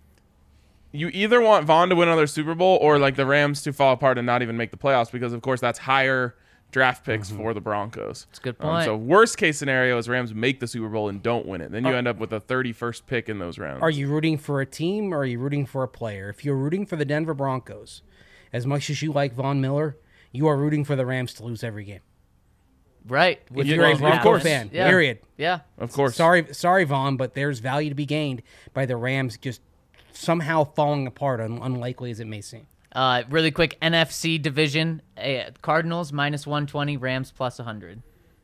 you either want Vaughn to win another Super Bowl or like the Rams to fall apart and not even make the playoffs, because of course that's higher draft picks for the Broncos. That's a good Um, point. so worst case scenario is Rams make the Super Bowl and don't win it. Then you end up with a thirty-first pick in those rounds. Are you rooting for a team or are you rooting for a player? If you're rooting for the Denver Broncos, as much as you like Von Miller, you are rooting for the Rams to lose every game. Right. If Which you're a will Bronco happen. fan, Yeah. period. Yeah. Of course. Sorry, sorry, Vaughn, but there's value to be gained by the Rams just somehow falling apart, un- unlikely as it may seem. Uh, really quick, N F C division, uh, Cardinals minus one twenty, Rams plus one hundred.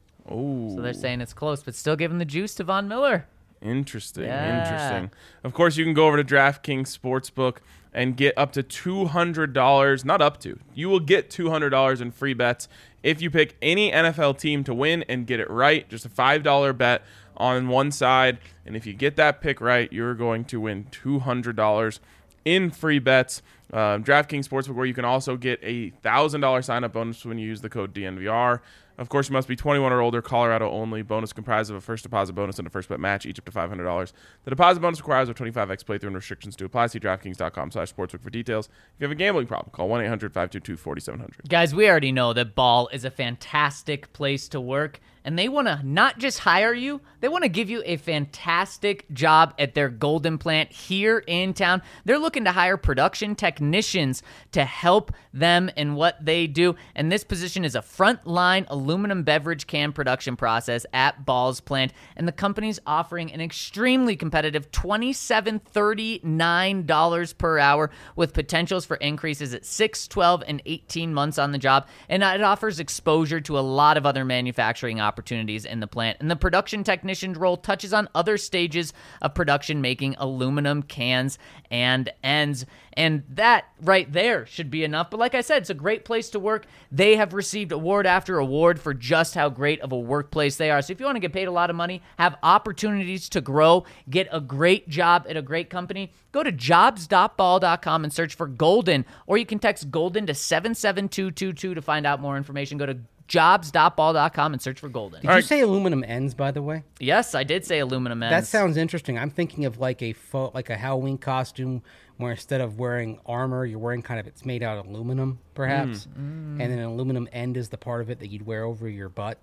Oh, So they're saying it's close, but still giving the juice to Von Miller. interesting. Yeah. Interesting. Of course, you can go over to DraftKings Sportsbook and get up to two hundred dollars. Not up to. You will get two hundred dollars in free bets if you pick any N F L team to win and get it right. Just a five dollar bet on one side. And if you get that pick right, you're going to win two hundred dollars in free bets. Um, DraftKings Sportsbook, where you can also get a one thousand dollars sign-up bonus when you use the code D N V R. Of course, you must be twenty-one or older, Colorado only. Bonus comprised of a first deposit bonus and a first bet match, each up to five hundred dollars. The deposit bonus requires a twenty-five x playthrough and restrictions to apply. See DraftKings.com slash sportsbook for details. If you have a gambling problem, call one eight hundred five two two four seven zero zero. Guys, we already know that Ball is a fantastic place to work, and they want to not just hire you, they want to give you a fantastic job at their Golden plant here in town. They're looking to hire production technicians to help them in what they do, and this position is a frontline aluminum beverage can production process at Ball's plant, and the company's offering an extremely competitive twenty-seven dollars, thirty-nine dollars per hour with potentials for increases at six, twelve, and eighteen months on the job, and it offers exposure to a lot of other manufacturing opportunities in the plant. And the production technician role touches on other stages of production, making aluminum cans and ends. And that right there should be enough. But like I said, it's a great place to work. They have received award after award for just how great of a workplace they are. So if you want to get paid a lot of money, have opportunities to grow, get a great job at a great company, go to jobs dot ball dot com and search for Golden, or you can text Golden to seven seven two two two to find out more information. Go to jobs dot ball dot com and search for Golden. Did you say aluminum ends, by the way? Yes, I did say aluminum ends. That sounds interesting. I'm thinking of like a fo- like a Halloween costume where instead of wearing armor, you're wearing kind of it's made out of aluminum, perhaps, and then an aluminum end is the part of it that you'd wear over your butt.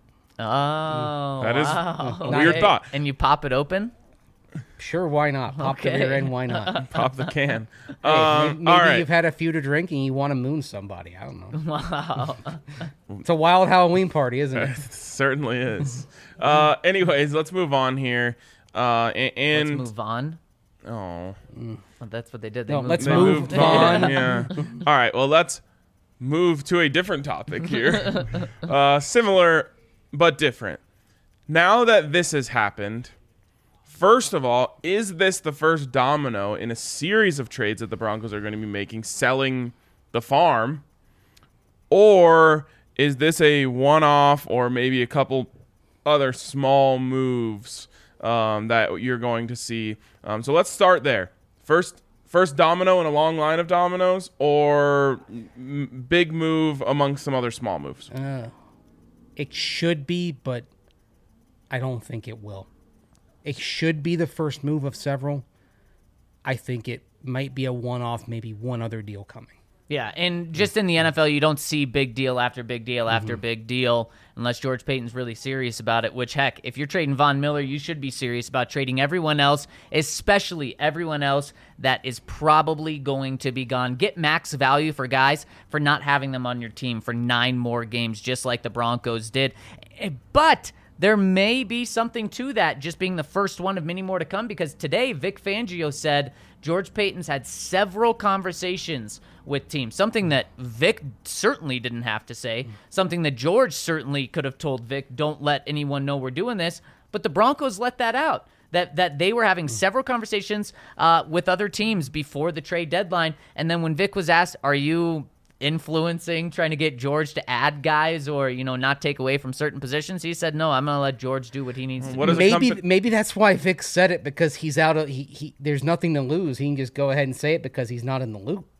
Oh, That is wow. a weird Okay. thought. And you pop it open? Sure, why not? Pop Okay. the rear end, why not? Pop the can. Hey, um, may- maybe all right. you've had a few to drink and you want to moon somebody. I don't know. Wow. It's a wild Halloween party, isn't it? Certainly is. uh, anyways, let's move on here. Uh, a- and Let's move on. oh, Well, that's what they did. They No, moved let's they on. move moved on. on. Yeah. All right. Well, let's move to a different topic here. uh, similar but different. Now that this has happened, first of all, is this the first domino in a series of trades that the Broncos are going to be making, selling the farm? Or is this a one-off or maybe a couple other small moves um, that you're going to see? Um, so let's start there. First, first domino in a long line of dominoes, or m- big move amongst some other small moves? Uh, it should be, but I don't think it will. It should be the first move of several. I think it might be a one-off, maybe one other deal coming. Yeah, and just in the N F L, you don't see big deal after big deal after Mm-hmm. big deal unless George Payton's really serious about it, which, heck, if you're trading Von Miller, you should be serious about trading everyone else, especially everyone else that is probably going to be gone. Get max value for guys for not having them on your team for nine more games, just like the Broncos did. But there may be something to that, just being the first one of many more to come, because today Vic Fangio said George Payton's had several conversations with teams, something that Vic certainly didn't have to say, something that George certainly could have told Vic, don't let anyone know we're doing this, but the Broncos let that out. That that they were having several conversations uh, with other teams before the trade deadline, and then when Vic was asked, are you influencing, trying to get George to add guys or, you know, not take away from certain positions, he said, no, I'm going to let George do what he needs to What do. is a Maybe company- maybe that's why Vic said it, because he's out of he, he there's nothing to lose. He can just go ahead and say it because he's not in the loop.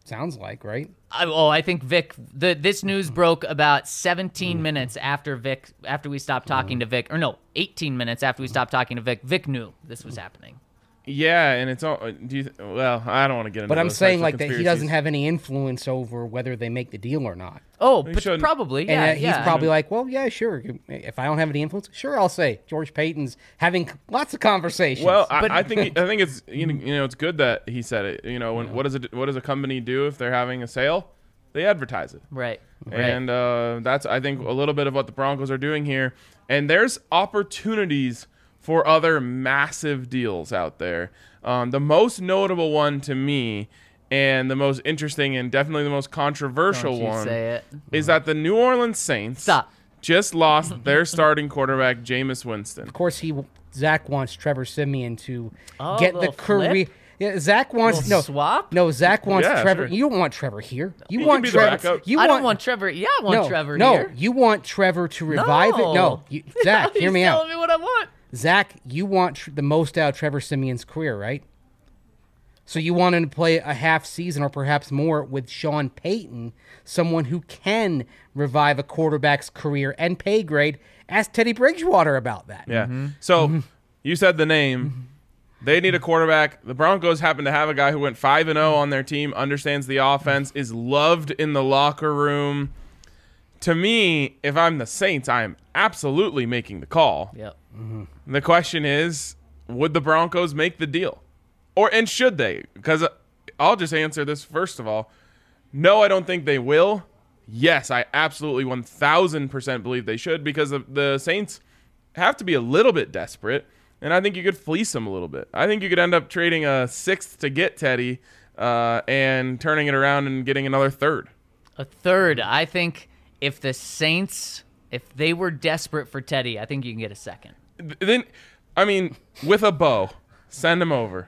Sounds like, right? I, oh, I think Vic. The this news broke about seventeen minutes after Vic. After we stopped talking to Vic, or no, eighteen minutes after we stopped talking to Vic. Vic knew this was happening. Yeah, and it's all. Do you? Well, I don't want to get into. But I'm those saying types like of that he conspiracies. doesn't have any influence over whether they make the deal or not. Oh, He but shouldn't. probably. And Yeah, uh, he's yeah. probably like, well, yeah, sure. If I don't have any influence, sure, I'll say George Payton's having lots of conversations. Well, I, But- I think I think it's you know, you know it's good that he said it. You know, when, what does it what does a company do if they're having a sale? They advertise it. right. Right. And uh, that's, I think, a little bit of what the Broncos are doing here. And there's opportunities for other massive deals out there. Um, the most notable one to me, and the most interesting and definitely the most controversial Don't you one, say it. is that the New Orleans Saints Stop. just lost their starting quarterback, Jameis Winston. of course, he Zach wants Trevor Simeon to Oh, get the little career. flip? Yeah, Zach wants Little no swap? No, Zach wants Yeah, Trevor. sure. You don't want Trevor here. You He want can be the Trevor. backup. You I want, don't want Trevor. Yeah, I want no, Trevor no, here. you want Trevor to revive No. it. No, you, Zach, hear He's me out. telling me what I want. Zach, you want tr- the most out of Trevor Simeon's career, right? So you want him to play a half season or perhaps more with Sean Payton, someone who can revive a quarterback's career and pay grade. Ask Teddy Bridgewater about that. Yeah. Mm-hmm. So you said the name. They need a quarterback. The Broncos happen to have a guy who went five and oh on their team, understands the offense, is loved in the locker room. To me, if I'm the Saints, I am absolutely making the call. Yep. The question is, would the Broncos make the deal? Or and should they? Because I'll just answer this first of all. No, I don't think they will. Yes, I absolutely one thousand percent believe they should, because the, the Saints have to be a little bit desperate, and I think you could fleece them a little bit. I think you could end up trading a sixth to get Teddy uh, and turning it around and getting another third. A third. I think if the Saints, if they were desperate for Teddy, I think you can get a second. Then, I mean, with a bow, send him over.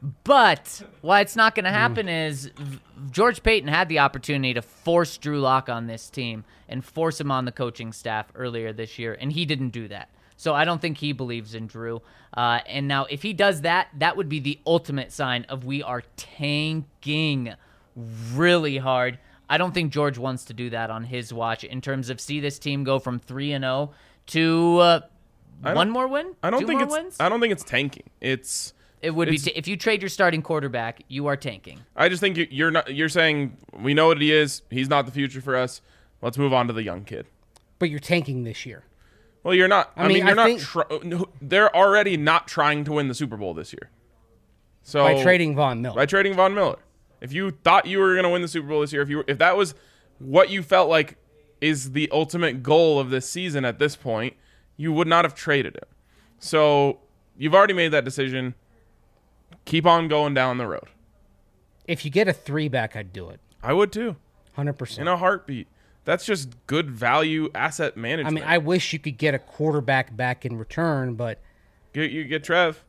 But why it's not going to happen is V- George Payton had the opportunity to force Drew Lock on this team and force him on the coaching staff earlier this year, and he didn't do that. So I don't think he believes in Drew. Uh, and now if he does that, that would be the ultimate sign of we are tanking really hard. I don't think George wants to do that on his watch in terms of see this team go from three and oh to uh, I one don't- more win? I don't Two think more it's. wins? I don't think it's tanking. It's. It would be it's- t- if you trade your starting quarterback, you are tanking. I just think you- you're not. You're saying we know what he is. He's not the future for us. Let's move on to the young kid. But you're tanking this year. Well, you're not. I, I mean, mean, you're I not. think- Tr- no, they're already not trying to win the Super Bowl this year. So By trading Von Miller. by trading Von Miller. If you thought you were going to win the Super Bowl this year, if you were, if that was what you felt like is the ultimate goal of this season at this point, you would not have traded him. So you've already made that decision. Keep on going down the road. If you get a three back, I'd do it. I would too, one hundred percent. in a heartbeat. That's just good value asset I management. mean, I wish you could get a quarterback back in return, but Get, you get Trev.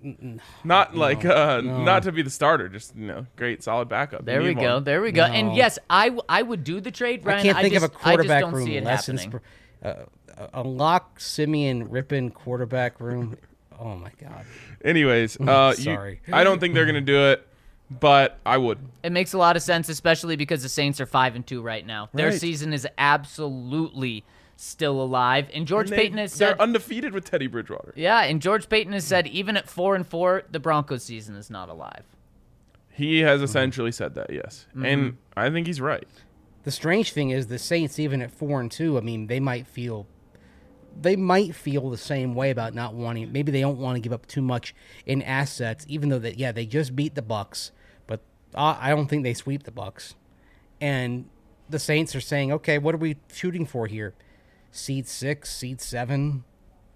Not like uh, not to be the starter, just you know, great solid backup. There You we need go. one. There we go. And No. yes, I, w- I would do the trade, Ryan. I can't think just, of a quarterback I just don't room see it less happening. insp- uh, a lock Simeon Rippin quarterback room. Oh my god. Anyways, uh, you- Sorry. I don't think they're gonna do it, but I would. It makes a lot of sense, especially because the Saints are five and two right now. Their Right. season is absolutely still alive. And George They- Payton has they're said, undefeated with Teddy Bridgewater. yeah, and George Payton has said, even at four and four, the Broncos season is not alive. He has essentially said that, yes, Mm-hmm. and I think he's right. The strange thing is the Saints, even at four and two, I mean, they might feel they might feel the same way about not wanting. Maybe they don't want to give up too much in assets, even though that yeah they just beat the Bucks, but uh, I don't think they sweep the Bucks. And the Saints are saying, okay, what are we shooting for here? Seed six, seed seven.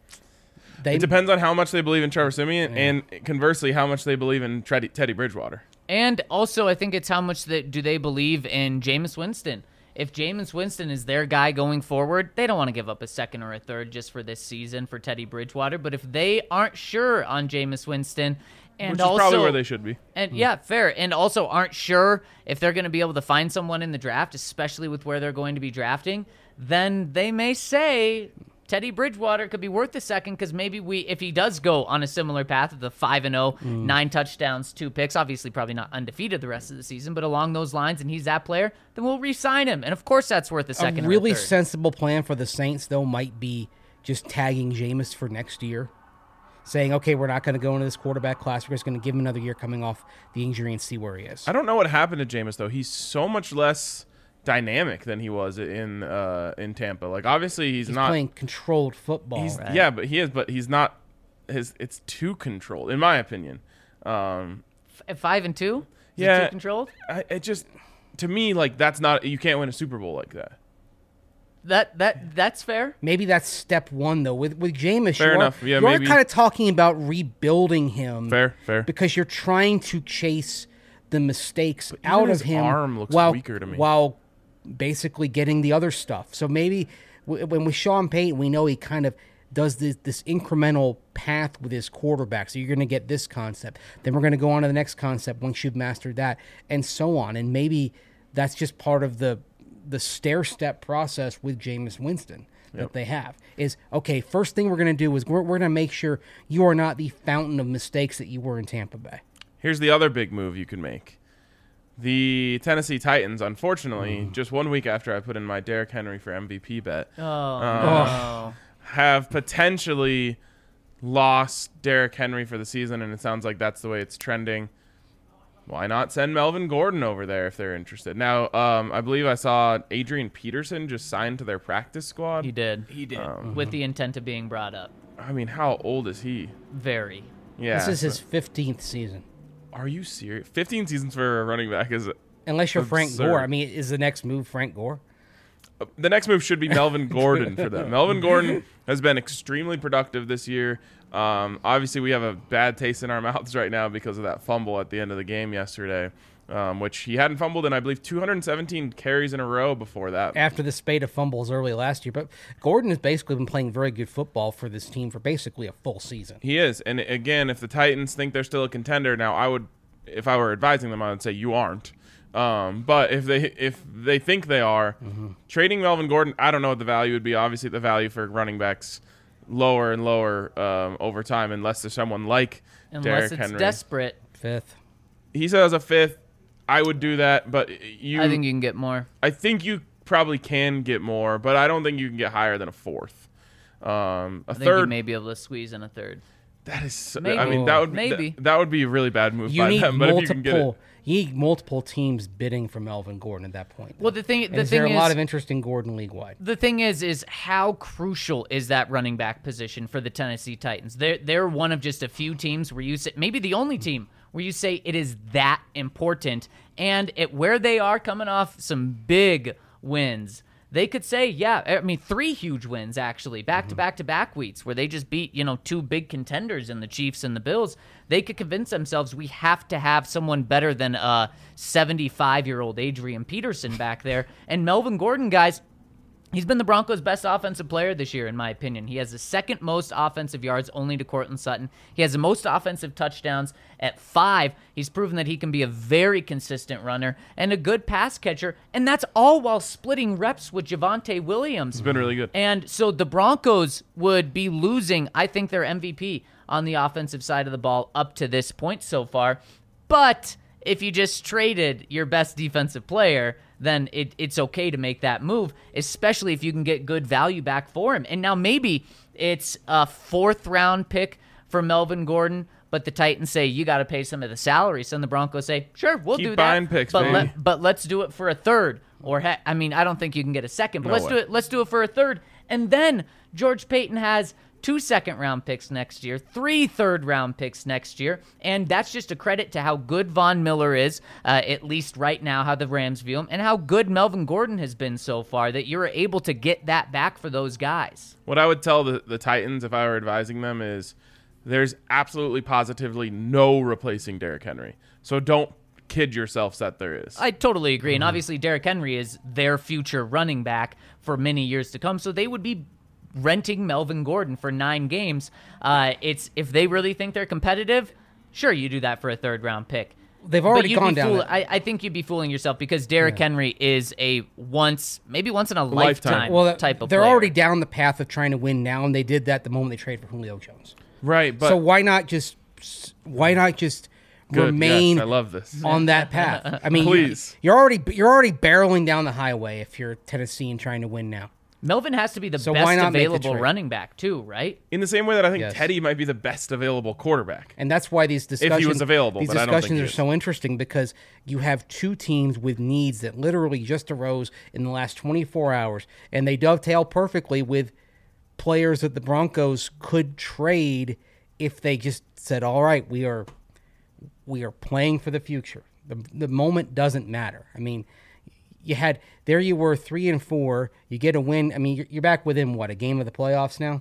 They It depends on how much they believe in Trevor Simeon, and conversely, how much they believe in Teddy, Teddy Bridgewater. And also, I think it's how much that do they believe in Jameis Winston. If Jameis Winston is their guy going forward, they don't want to give up a second or a third just for this season for Teddy Bridgewater. But if they aren't sure on Jameis Winston, and Which is also probably where they should be. and yeah, fair, and also aren't sure if they're going to be able to find someone in the draft, especially with where they're going to be drafting, then they may say, Teddy Bridgewater could be worth a second because maybe we, if he does go on a similar path of the five and zero, nine touchdowns, two picks, obviously probably not undefeated the rest of the season, but along those lines, and he's that player, then we'll re-sign him, and of course that's worth a second. A really or a third. sensible plan for the Saints, though, might be just tagging Jameis for next year, saying, okay, we're not going to go into this quarterback class. We're just going to give him another year coming off the injury and see where he is. I don't know what happened to Jameis though. He's so much less dynamic than he was in uh, in Tampa. Like obviously he's, He's not playing controlled football. He's, Right. Yeah, but he is. But he's not. His it's too controlled, in my opinion. Um, At five and two, is Yeah. it too controlled? I, it just to me like that's not. You can't win a Super Bowl like that. That that that's fair. Maybe that's step one, though. With with Jameis, Fair you enough. are, Yeah, you are maybe. kind of talking about rebuilding him. Fair, fair. Because you're trying to chase the mistakes even out his of him arm looks while, weaker to me. while basically getting the other stuff. So maybe w- when with Sean Payton, we know he kind of does this, this incremental path with his quarterback. So you're going to get this concept. Then we're going to go on to the next concept once you've mastered that, and so on. And maybe that's just part of the the stair-step process with Jameis Winston that Yep. they have. Is, okay, first thing we're going to do is we're, we're going to make sure you are not the fountain of mistakes that you were in Tampa Bay. Here's the other big move you can make. The Tennessee Titans, unfortunately, Mm. just one week after I put in my Derrick Henry for M V P bet, Oh, Uh, no. have potentially lost Derrick Henry for the season, and it sounds like that's the way it's trending. Why not send Melvin Gordon over there if they're interested? Now, um, I believe I saw Adrian Peterson just signed to their practice squad. He did. He did. With the intent of being brought up. I mean, how old is he? Very. Yeah. This is his so- fifteenth season. Are you serious? fifteen seasons for a running back is Unless you're Frank Absurd. Gore. I mean, is the next move Frank Gore? the next move should be Melvin Gordon for them. Melvin Gordon has been extremely productive this year. Um, obviously, we have a bad taste in our mouths right now because of that fumble at the end of the game yesterday, um, which he hadn't fumbled in, I believe, two hundred seventeen carries in a row before that. After the spate of fumbles early last year. But Gordon has basically been playing very good football for this team for basically a full season. He is. And again, if the Titans think they're still a contender, now I would, if I were advising them, I would say you aren't. Um, but if they if they think they are, Mm-hmm. trading Melvin Gordon, I don't know what the value would be. Obviously, the value for running backs lower and lower um, over time, unless there's someone like Unless Derrick it's Henry. desperate, Fifth. He says a fifth. I would do that, but you. I think you can get more. I think you probably can get more, but I don't think you can get higher than a fourth. Um, a I think you third. may be able to squeeze in a third. That is. So, Maybe. I mean, that would Maybe. That, that would be a really bad move You by need them. But if you can get it, multiple. You need multiple teams bidding for Melvin Gordon at that point. Well, the thing, And the is thing there a is, lot of interest in Gordon league wide? the thing is, is how crucial is that running back position for the Tennessee Titans? They're they're one of just a few teams where you say, maybe the only team where you say it is that important, and at where they are coming off some big wins. They could say, yeah, I mean, three huge wins, actually, back-to-back-to-back weeks, where they just beat, you know, two big contenders in the Chiefs and the Bills. They could convince themselves we have to have someone better than a seventy-five-year-old Adrian Peterson back there. And Melvin Gordon, guys, he's been the Broncos' best offensive player this year, in my opinion. He has the second most offensive yards, only to Courtland Sutton. He has the most offensive touchdowns at five. He's proven that he can be a very consistent runner and a good pass catcher, and that's all while splitting reps with Javonte Williams. it's been really good. And so the Broncos would be losing, I think, their M V P on the offensive side of the ball up to this point so far. But if you just traded your best defensive player, then it, it's okay to make that move, especially if you can get good value back for him. And now maybe it's a fourth-round pick for Melvin Gordon, but the Titans say, you got to pay some of the salary. So then the Broncos say, sure, we'll Keep do that. buying picks, but, baby. let, but let's do it for a third. Or, heck, I mean, I don't think you can get a second, but No let's way. do it. Let's do it for a third. And then George Payton has two second-round picks next year, three third-round picks next year, and that's just a credit to how good Von Miller is, uh, at least right now, how the Rams view him, and how good Melvin Gordon has been so far, that you're able to get that back for those guys. What I would tell the, the Titans if I were advising them is there's absolutely positively no replacing Derrick Henry. So don't kid yourselves that there is. I totally agree, and obviously Derrick Henry is their future running back for many years to come, so they would be renting Melvin Gordon for nine games. Uh, it's if they really think they're competitive, sure, you do that for a third round pick. they've But already you'd gone be down. fool- that- I, I think you'd be fooling yourself because Derrick Henry is a once, maybe once in a Lifetime. lifetime, well, type of they're player. already down the path of trying to win now, and they did that the moment they traded for Julio Jones. Right, but so why not just why not just good, remain yes, I love this. on that path? I mean, Please. you're already you're already barreling down the highway if you're Tennessee and trying to win now. Melvin has to be the So why best not make the available trade? running back too, right? In the same way that I think Yes. Teddy might be the best available quarterback. And that's why these discussions was available, these but I don't think discussions he are is. so interesting because you have two teams with needs that literally just arose in the last twenty-four hours, and they dovetail perfectly with players that the Broncos could trade if they just said, "All right, we are we are playing for the future. The the moment doesn't matter." I mean, you had there you were three and four. You get a win. I mean, you're, you're back within what, a game of the playoffs now,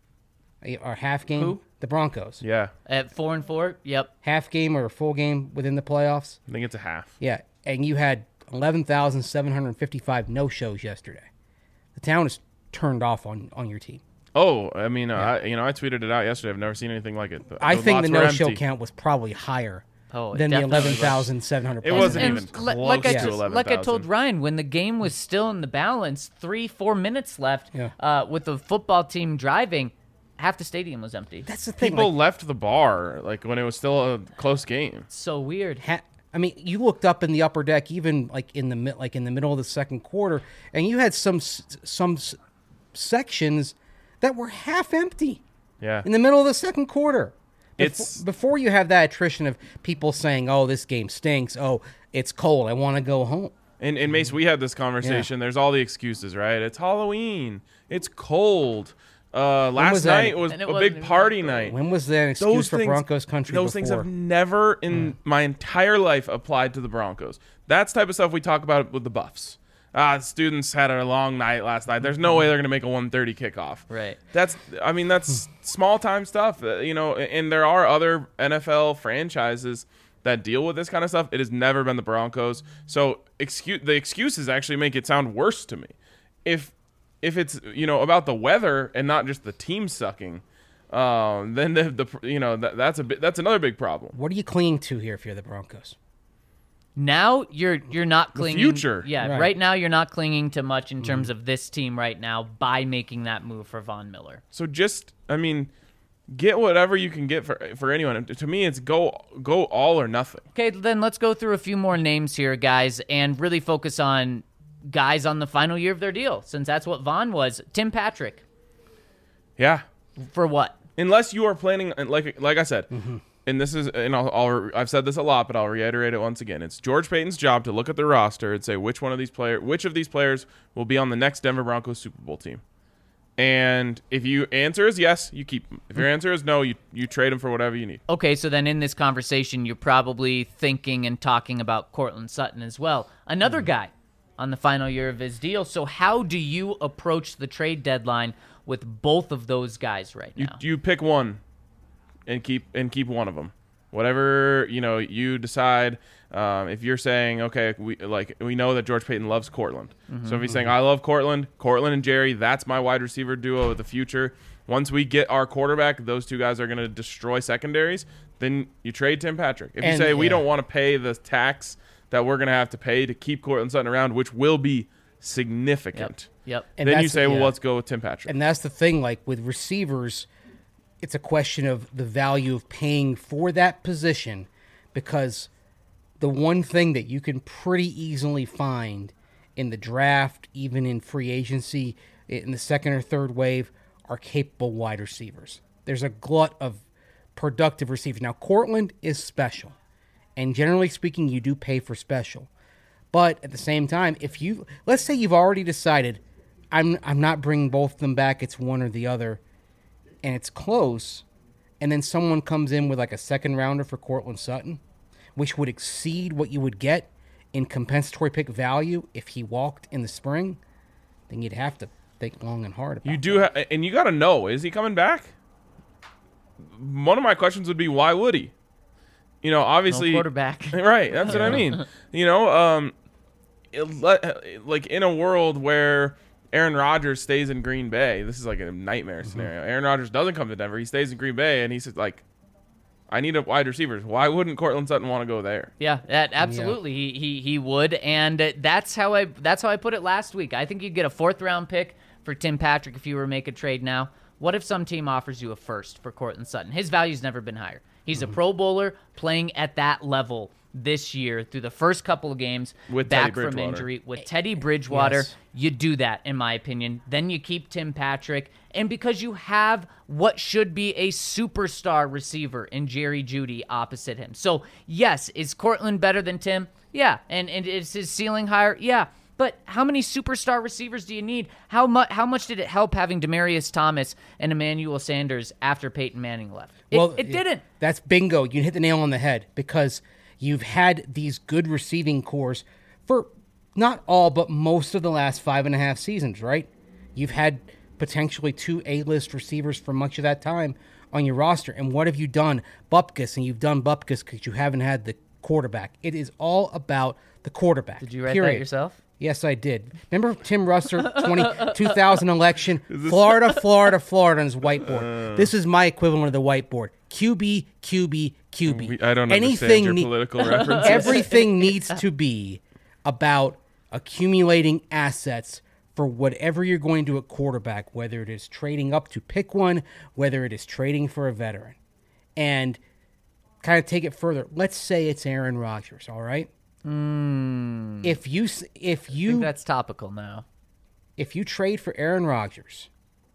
or half game. Who? The Broncos. Yeah, At four and four, yep. Half game or a full game within the playoffs. I think it's a half. Yeah, and you had eleven thousand seven hundred fifty-five no shows yesterday. The town is turned off on on your team. Oh, I mean, uh, I, you know, I tweeted it out yesterday. I've never seen anything like it. I think the lots were no show empty. count was probably higher Oh, it than the definitely was. eleven thousand seven hundred. It wasn't And even li- close like I to just, eleven like I told thousand. Ryan, when the game was still in the balance, three, four minutes left, Yeah. uh, with the football team driving, half the stadium was empty. That's the thing. People like, left the bar like when it was still a close game. so weird. ha- I mean, you looked up in the upper deck, even like in the mi- like in the middle of the second quarter, and you had some s- some s- sections that were half empty Yeah, in the middle of the second quarter. Befo- It's- before you have that attrition of people saying, "Oh, this game stinks. Oh, it's cold. I want to go home." and and Mace, we had this conversation. There's all the excuses, right? It's Halloween. It's cold. Uh, last was that? night was And it a wasn't big even party that night. When was that an excuse Those for things, Broncos country those things before? have never in my entire life applied to the Broncos. That's the type of stuff we talk about with the Buffs. Ah, students had a long night last night. There's no way they're going to make a one thirty kickoff. Right. That's, I mean, that's small time stuff, uh, you know, and there are other N F L franchises that deal with this kind of stuff. It has never been the Broncos. So excuse, the excuses actually make it sound worse to me. If, if it's, you know, about the weather and not just the team sucking, um, then the, the you know, that, that's a bit, that's another big problem. What are you clinging to here if you're the Broncos? Now you're you're not clinging. future. Yeah, Right. right. now you're not clinging to much in terms of this team right now by making that move for Von Miller. So just, I mean, get whatever you can get for for anyone. To me, it's go go all or nothing. Okay, then let's go through a few more names here, guys, and really focus on guys on the final year of their deal, since that's what Von was. Tim Patrick, Yeah, for what? unless you are planning, like like I said, and this is, and I'll, I'll I've said this a lot, but I'll reiterate it once again. It's George Payton's job to look at the roster and say which one of these player, which of these players will be on the next Denver Broncos Super Bowl team. And if your answer is yes, you keep them. If your answer is no, you you trade them for whatever you need. Okay, so then in this conversation, you're probably thinking and talking about Cortland Sutton as well. Another guy on the final year of his deal. So how do you approach the trade deadline with both of those guys right You now? you pick one, and keep and keep one of them. Whatever you know, you decide. Um, if you're saying, okay, we like we know that George Payton loves Cortland, so if he's saying I love Cortland, Cortland and Jerry, that's my wide receiver duo of the future. Once we get our quarterback, those two guys are going to destroy secondaries. Then you trade Tim Patrick. If you And- say we yeah. don't want to pay the tax that we're going to have to pay to keep Cortland Sutton around, which will be significant, Yep. And then you that's- say, well, yeah. let's go with Tim Patrick. And that's the thing, like with receivers, it's a question of the value of paying for that position, because the one thing that you can pretty easily find in the draft, even in free agency, in the second or third wave, are capable wide receivers. There's a glut of productive receivers. Now, Cortland is special, and generally speaking, you do pay for special. But at the same time, if you, let's say you've already decided, I'm I'm not bringing both of them back, it's one or the other, and it's close, and then someone comes in with like a second rounder for Cortland Sutton, which would exceed what you would get in compensatory pick value if he walked in the spring, then you'd have to think long and hard about You it. do, ha- and you got to know: is he coming back? One of my questions would be, why would he? You know, obviously, No quarterback. right? That's what I mean. You know, um, it let, like in a world where Aaron Rodgers stays in Green Bay, this is like a nightmare scenario. Aaron Rodgers doesn't come to Denver; he stays in Green Bay, and he's like, I need a wide receiver. Why wouldn't Cortland Sutton want to go there? Yeah, that, absolutely. He, he he would, and uh, that's how I that's how I put it last week. I think you'd get a fourth round pick for Tim Patrick if you were to make a trade now. What if some team offers you a first for Cortland Sutton? His value's never been higher. He's mm-hmm. a Pro Bowler playing at that level this year through the first couple of games with back from injury with Teddy Bridgewater. Yes. You do that, in my opinion. Then you keep Tim Patrick, and because you have what should be a superstar receiver in Jerry Jeudy opposite him. So yes, is Cortland better than Tim? Yeah, and and is his ceiling higher? Yeah. But how many superstar receivers do you need? How much How much did it help having Demaryius Thomas and Emmanuel Sanders after Peyton Manning left? It, well, it didn't. That's bingo. You hit the nail on the head because you've had these good receiving cores for not all, but most of the last five and a half seasons, right? You've had potentially two A-list receivers for much of that time on your roster. And what have you done? Bupkis, and you've done Bupkis because you haven't had the quarterback. It is all about the quarterback. Did you write period. that yourself? Yes, I did. Remember Tim Russer, twenty, two thousand election, Florida, Florida, Florida on his whiteboard. Uh, this is my equivalent of the whiteboard. Q B, Q B, Q B. I don't Anything understand your ne- political references. Everything needs to be about accumulating assets for whatever you're going to do at quarterback, whether it is trading up to pick one, whether it is trading for a veteran. And kind of take it further. Let's say it's Aaron Rodgers, all right? Mm. If you if you I think that's topical now. If you trade for Aaron Rodgers,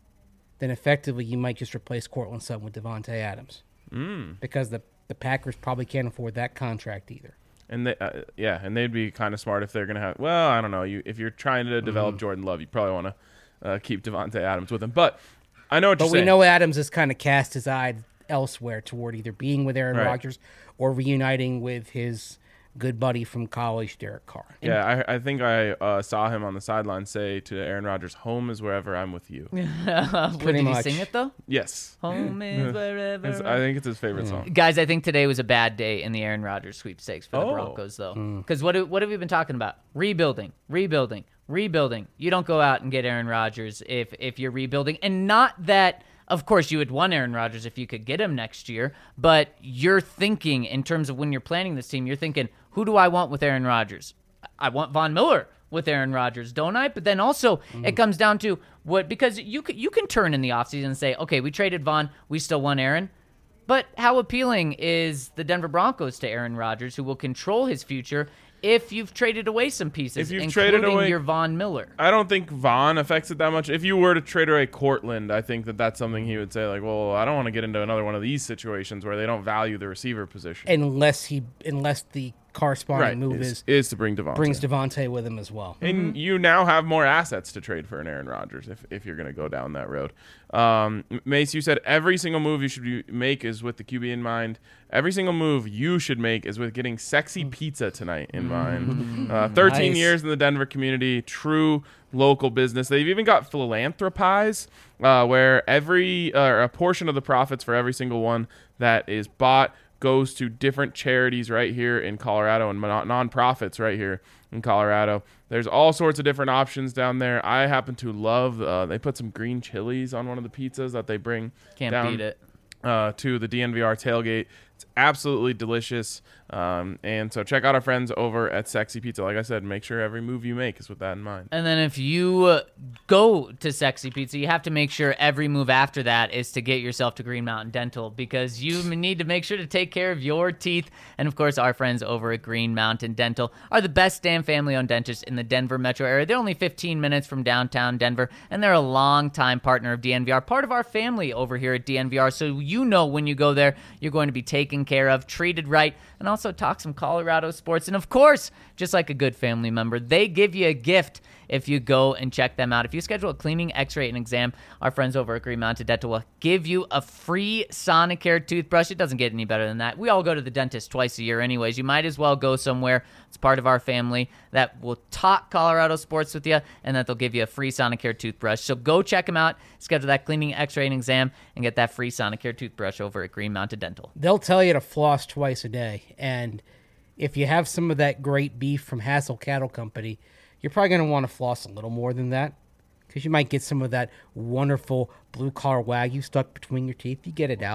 then effectively you might just replace Cortland Sutton with Devontae Adams, mm. because the the Packers probably can't afford that contract either. And they, uh, yeah, and they'd be kind of smart if they're gonna have. Well, I don't know. You if you're trying to develop mm-hmm. Jordan Love, you probably want to uh, keep Devontae Adams with him. But I know what but you're we saying. know Adams has kind of cast his eye elsewhere toward either being with Aaron right. Rodgers or reuniting with his good buddy from college, Derek Carr. Yeah, I, I think I uh, saw him on the sideline say to Aaron Rodgers, "Home is wherever I'm with you." Pretty Did much. he sing it though? Yes. Home is wherever. It's, I think it's his favorite Yeah. song. Guys, I think today was a bad day in the Aaron Rodgers sweepstakes for the Oh. Broncos, though. Mm. Because what, what have we been talking about? Rebuilding, rebuilding, rebuilding. You don't go out and get Aaron Rodgers if if you're rebuilding. And not that, of course, you would want Aaron Rodgers if you could get him next year, but you're thinking in terms of when you're planning this team, you're thinking, who do I want with Aaron Rodgers? I want Von Miller with Aaron Rodgers, don't I? But then also mm. it comes down to what, because you can, you can turn in the offseason and say, okay, we traded Von, we still want Aaron. But how appealing is the Denver Broncos to Aaron Rodgers, who will control his future if you've traded away some pieces, If you've including traded away- your Von Miller? I don't think Vaughn affects it that much. If you were to trade away Cortland, I think that that's something he would say, like, well, I don't want to get into another one of these situations where they don't value the receiver position. Unless he, unless the corresponding right, move is, is, is to bring Devontae. brings Devontae with him as well. And you now have more assets to trade for an Aaron Rodgers if, if you're going to go down that road. Um, Mace, you said every single move you should be, make is with the Q B in mind. Every single move you should make is with getting sexy pizza tonight in mind. Uh, thirteen Nice. years in the Denver community, true local business. They've even got Philanthropize, uh, where every uh, a portion of the profits for every single one that is bought goes to different charities right here in Colorado and non- nonprofits right here in Colorado. There's all sorts of different options down there. I happen to love, uh, they put some green chilies on one of the pizzas that they bring Can't down beat it. Uh, to the D N V R tailgate. It's absolutely delicious. Um, and so check out our friends over at Sexy Pizza. Like I said, make sure every move you make is with that in mind. And then if you uh, go to Sexy Pizza, you have to make sure every move after that is to get yourself to Green Mountain Dental, because you need to make sure to take care of your teeth. And of course, our friends over at Green Mountain Dental are the best damn family-owned dentists in the Denver metro area. They're only fifteen minutes from downtown Denver, and they're a long-time partner of D N V R, part of our family over here at D N V R. So you know when you go there, you're going to be taken care of, treated right, and also talk some Colorado sports. And of course, just like a good family member, they give you a gift if you go and check them out. If you schedule a cleaning, x-ray, and exam, our friends over at Green Mountain Dental will give you a free Sonicare toothbrush. It doesn't get any better than that. We all go to the dentist twice a year anyways. You might as well go somewhere. It's part of our family that will talk Colorado sports with you, and that they'll give you a free Sonicare toothbrush. So go check them out, schedule that cleaning, x-ray, and exam, and get that free Sonicare toothbrush over at Green Mountain Dental. They'll tell you to floss twice a day, and if you have some of that great beef from Hassel Cattle Company, you're probably going to want to floss a little more than that, because you might get some of that wonderful blue-collar Wagyu stuck between your teeth. You get it out.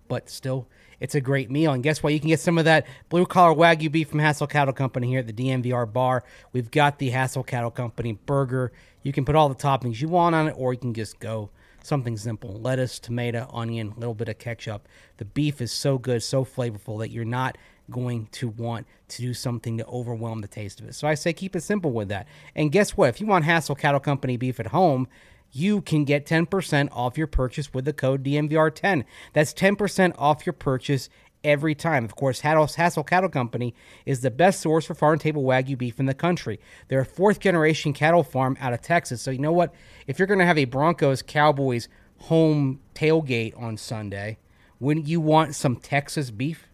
but still, it's a great meal. And guess what? You can get some of that blue-collar Wagyu beef from Hassel Cattle Company here at the D N V R bar. We've got the Hassel Cattle Company burger. You can put all the toppings you want on it, or you can just go something simple. Lettuce, tomato, onion, a little bit of ketchup. The beef is so good, so flavorful that you're not going to want to do something to overwhelm the taste of it. So I say keep it simple with that. And guess what? If you want Hassel Cattle Company beef at home, you can get ten percent off your purchase with the code D N V R ten. That's ten percent off your purchase every time. Of course, Hassel Cattle Company is the best source for farm-table Wagyu beef in the country. They're a fourth-generation cattle farm out of Texas. So you know what? If you're going to have a Broncos-Cowboys home tailgate on Sunday, wouldn't you want some Texas beef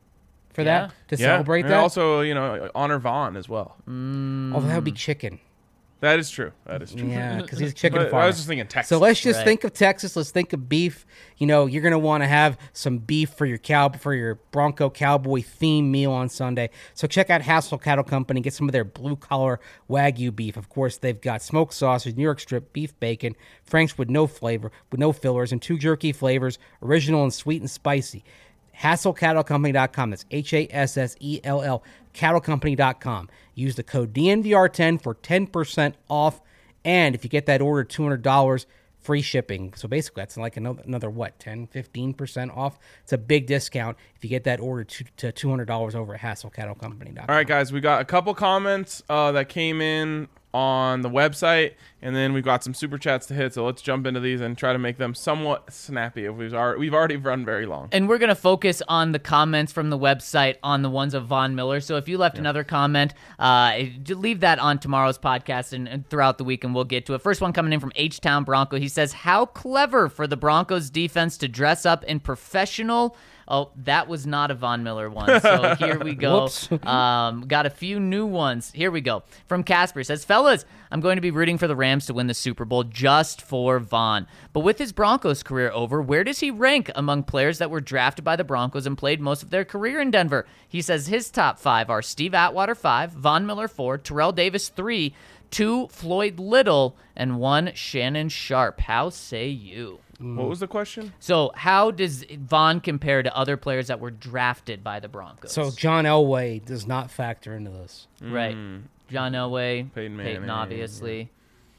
for Yeah. that, to Yeah. celebrate And that? also, you know, honor Vaughn as well. Although that would be chicken. That is true. That is true. Yeah, because he's a chicken But farmer. I was just thinking Texas. So let's just Right. think of Texas. Let's think of beef. You know, you're going to want to have some beef for your cow for your Bronco Cowboy theme meal on Sunday. So check out Hassel Cattle Company. Get some of their blue collar Wagyu beef. Of course, they've got smoked sausage, New York strip, beef bacon, Frank's with no flavor, with no fillers, and two jerky flavors, original and sweet and spicy. Hassel Cattle Company dot com. That's H A S S E L L, Cattle Company dot com. Use the code D N V R ten for ten percent off. And if you get that order, two hundred dollars free shipping. So basically, that's like another, another what, ten, fifteen percent off? It's a big discount if you get that order to, to two hundred dollars over at Hassel Cattle Company dot com. All right, guys, we got a couple comments uh, that came in on the website, and then we've got some super chats to hit. So let's jump into these and try to make them somewhat snappy. If we've already, we've already run very long. And we're going to focus on the comments from the website on the ones of Von Miller. So if you left another comment, uh, leave that on tomorrow's podcast and, and throughout the week, and we'll get to it. First one coming in from H-Town Bronco. He says, how clever for the Broncos defense to dress up in professional... Oh, that was not a Von Miller one. So here we go. Whoops. Um, got a few new ones. Here we go. From Casper. It says, fellas, I'm going to be rooting for the Rams to win the Super Bowl just for Von. But with his Broncos career over, where does he rank among players that were drafted by the Broncos and played most of their career in Denver? He says his top five are Steve Atwater five, Von Miller four, Terrell Davis three, two Floyd Little, and one Shannon Sharp. How say you? What was the question? So how does Von compare to other players that were drafted by the Broncos? So John Elway does not factor into this. Right. John Elway, Peyton Peyton, Manning, obviously.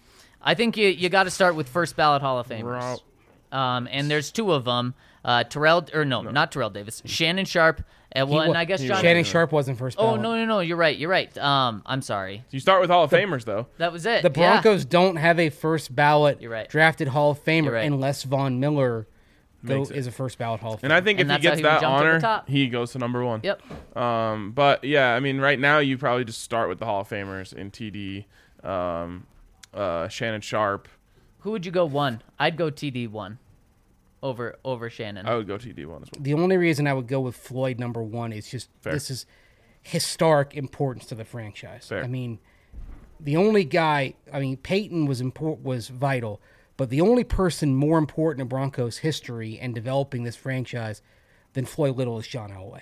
I think you you got to start with first ballot Hall of Famers. Um, and there's two of them. Uh, Terrell, or no, not Terrell Davis. Shannon Sharp. Uh, well, He and wa- I guess John. Shannon Sharp wasn't first Oh ballot. no no no! You're right. You're right. Um, I'm sorry. You start with Hall of Famers, though. That was it. The Yeah. Broncos don't have a first ballot You're right. drafted Hall of Famer You're right. unless Von Miller go, Makes it. is a first ballot Hall of Famer. And I think And if he that's how gets he would that jump to the honor, top. he goes to number one. Yep. Um, but yeah, I mean, right now you probably just start with the Hall of Famers in T D, um, uh, Shannon Sharp. Who would you go one? I'd go T D one over over Shannon. I would go T D one as well. The only reason I would go with Floyd number one is just Fair. this is historic importance to the franchise. Fair. I mean, the only guy, I mean, Peyton was import, was vital, but the only person more important in Broncos history and developing this franchise than Floyd Little is John Elway.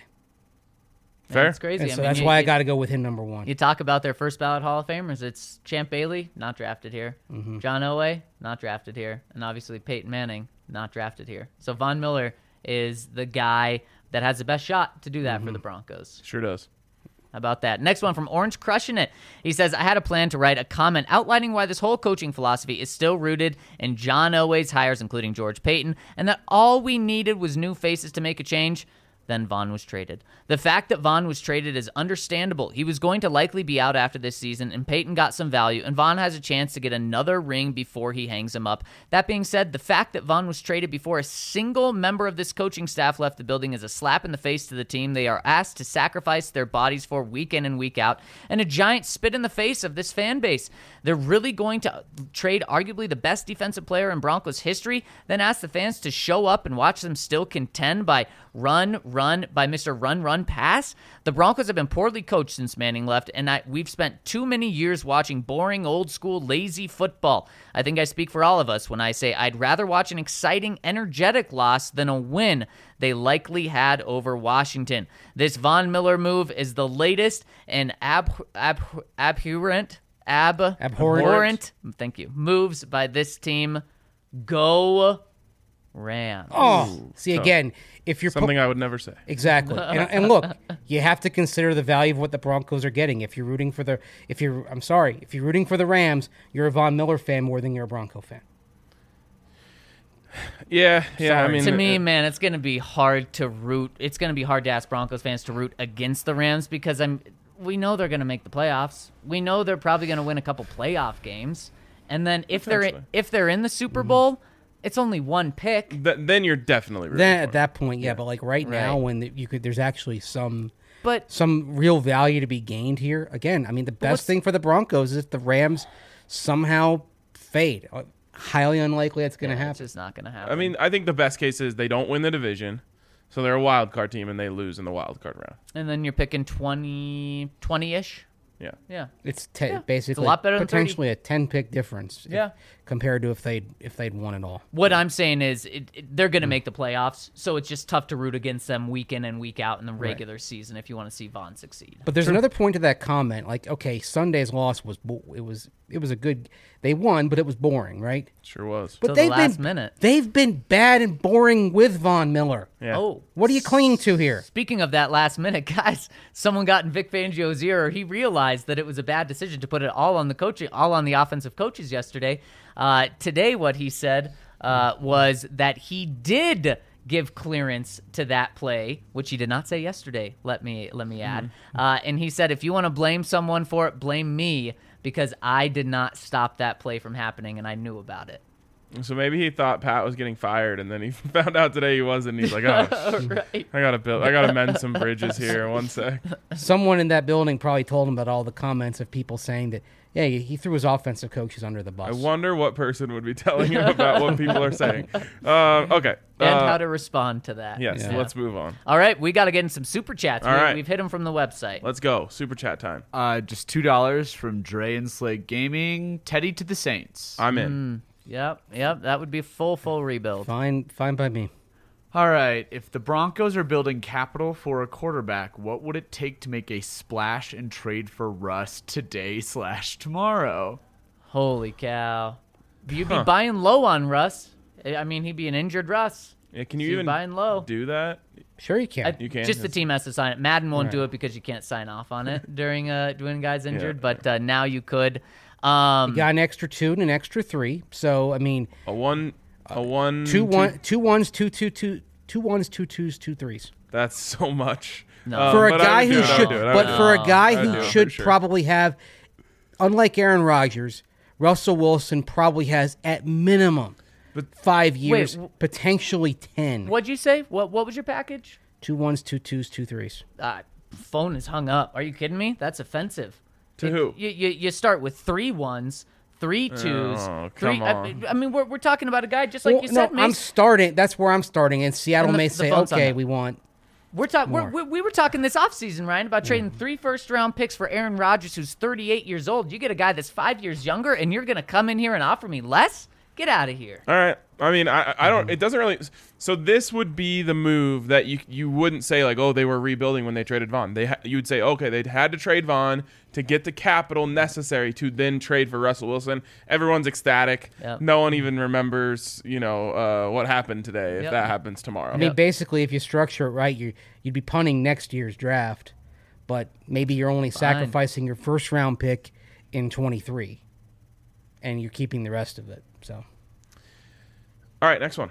Fair. That's crazy. And I so mean, that's you- why I you- got to go with him number one. You talk about their first ballot Hall of Famers. It's Champ Bailey, not drafted here. Mm-hmm. John Elway, not drafted here. And obviously Peyton Manning, not drafted here. So Von Miller is the guy that has the best shot to do that Mm-hmm. for the Broncos. Sure does. How about that? Next one from Orange Crushing It. He says, I had a plan to write a comment outlining why this whole coaching philosophy is still rooted in John Elway's hires, including George Payton, and that all we needed was new faces to make a change. Then Von was traded. The fact that Von was traded is understandable. He was going to likely be out after this season, and Peyton got some value, and Von has a chance to get another ring before he hangs him up. That being said, the fact that Von was traded before a single member of this coaching staff left the building is a slap in the face to the team they are asked to sacrifice their bodies for week in and week out, and a giant spit in the face of this fan base. They're really going to trade arguably the best defensive player in Broncos history, then ask the fans to show up and watch them still contend by run, run, by Mister Run, Run, Pass? The Broncos have been poorly coached since Manning left, and I, we've spent too many years watching boring, old-school, lazy football. I think I speak for all of us when I say I'd rather watch an exciting, energetic loss than a win they likely had over Washington. This Von Miller move is the latest and ab, ab, abhorrent, ab, Abhorrent. thank you, moves by this team. Go Rams. Oh, see again, if you're Something I would never say. exactly, and, and look, you have to consider the value of what the Broncos are getting. If you're rooting for the, if you're, I'm sorry, if you're rooting for the Rams, you're a Von Miller fan more than you're a Bronco fan. Yeah, yeah. I Sorry. mean, To me, it- man, it's going to be hard to root. It's going to be hard to ask Broncos fans to root against the Rams because I'm. We know they're going to make the playoffs. We know they're probably going to win a couple playoff games, and then if they're Potentially. if they're in the Super Bowl, it's only one pick. th- then you're definitely rooting Then for at it. that point, yeah, but like right, now, Right. when the, you could, there's actually some But some real value to be gained here. Again, I mean, the best what's- thing for the Broncos is if the Rams somehow fade. Uh, Highly unlikely that's going to yeah, it's happen. just not going to happen. I mean, I think the best case is they don't win the division, so they're a wild card team and they lose in the wild card round. and then you're picking twenty, twenty-ish. Yeah. Yeah. It's te- Yeah, basically it's a lot better than thirty. potentially a ten pick difference. if- Yeah. compared to if they'd if they'd won it all. What I'm saying is it, it- they're Hmm. going to make the playoffs, so it's just tough to root against them week in and week out in the regular season if you want to see Vaughn succeed. But there's another point to that comment. Like, okay, Sunday's loss was bo- it was it was a good. They won, but it was boring, right? Sure was. But Till the they've last been minute. they've been bad and boring with Von Miller. Yeah. Oh, What are you clinging to here? speaking of that last minute, guys, someone got in Vic Fangio's ear. He realized that it was a bad decision to put it all on the coaching, all on the offensive coaches yesterday. Uh, today, what he said uh, was that he did give clearance to that play, which he did not say yesterday. Let me let me add. Uh, and he said, if you want to blame someone for it, blame me because I did not stop that play from happening, and I knew about it. So maybe he thought Pat was getting fired, and then he found out today he wasn't. And he's like, "Oh, Right. I gotta build. I gotta mend some bridges here. One sec." Someone in that building probably told him about all the comments of people saying that, yeah, he threw his offensive coaches under the bus. I wonder what person would be telling him about what people are saying. Um, okay. And Uh, how to respond to that. yes. Yeah. Let's move on. All right, we got to get in some super chats. All we, right. We've hit them from the website. Let's go. Super chat time. Uh, just two dollars from Dre and Slade Gaming. Teddy to the Saints. I'm in. Yep, yep, that would be a full, full rebuild. Fine, fine by me. All right. If the Broncos are building capital for a quarterback, what would it take to make a splash and trade for Russ today slash tomorrow? Holy cow. You'd be Huh. buying low on Russ. I mean, he'd be an injured Russ. Yeah, can So you you're even buying low. do that? Sure, you can. I- You can? Just the That's- team has to sign it. Madden won't do Right. it because you can't sign off on it during uh when guys injured, but uh, now you could. Um, you got an extra two and an extra three. So I mean, A one. A one. two one, two ones, two two two, two ones, two twos, two threes. That's so much. No. Um, For a but I guy would do who it, I would should, do it, I but would do for it. a guy I would who do it for should sure. probably have, unlike Aaron Rodgers, Russell Wilson probably has at minimum five years, w- potentially ten. what'd you say? What What was your package? Two ones, two twos, two threes. Uh, phone is hung up. Are you kidding me? That's offensive. To If- who? You, you you start with three ones, three twos, Oh, three. come I, on. I mean, we're we're talking about a guy just like Well, you no, said, I'm Mace. starting. That's where I'm starting, and Seattle And the- may the say, phone's hung "Okay, up. we want." We're talking. more. We we were talking this offseason, Ryan, about trading three first round picks for Aaron Rodgers, who's thirty-eight years old. You get a guy that's five years younger, and you're gonna come in here and offer me less? Get out of here. All right. I mean, I I don't. It doesn't really. So this would be the move that you you wouldn't say like, oh, they were rebuilding when they traded Vaughn. They ha- you'd say, okay, they had to trade Vaughn to get the capital necessary to then trade for Russell Wilson. Everyone's ecstatic. Yep. No one even remembers, you know, uh, what happened today. If Yep. that happens tomorrow. I mean, basically, if you structure it right, you you'd be punting next year's draft, but maybe you're only sacrificing your first round pick in twenty-three, and you're keeping the rest of it. So. All right, next one.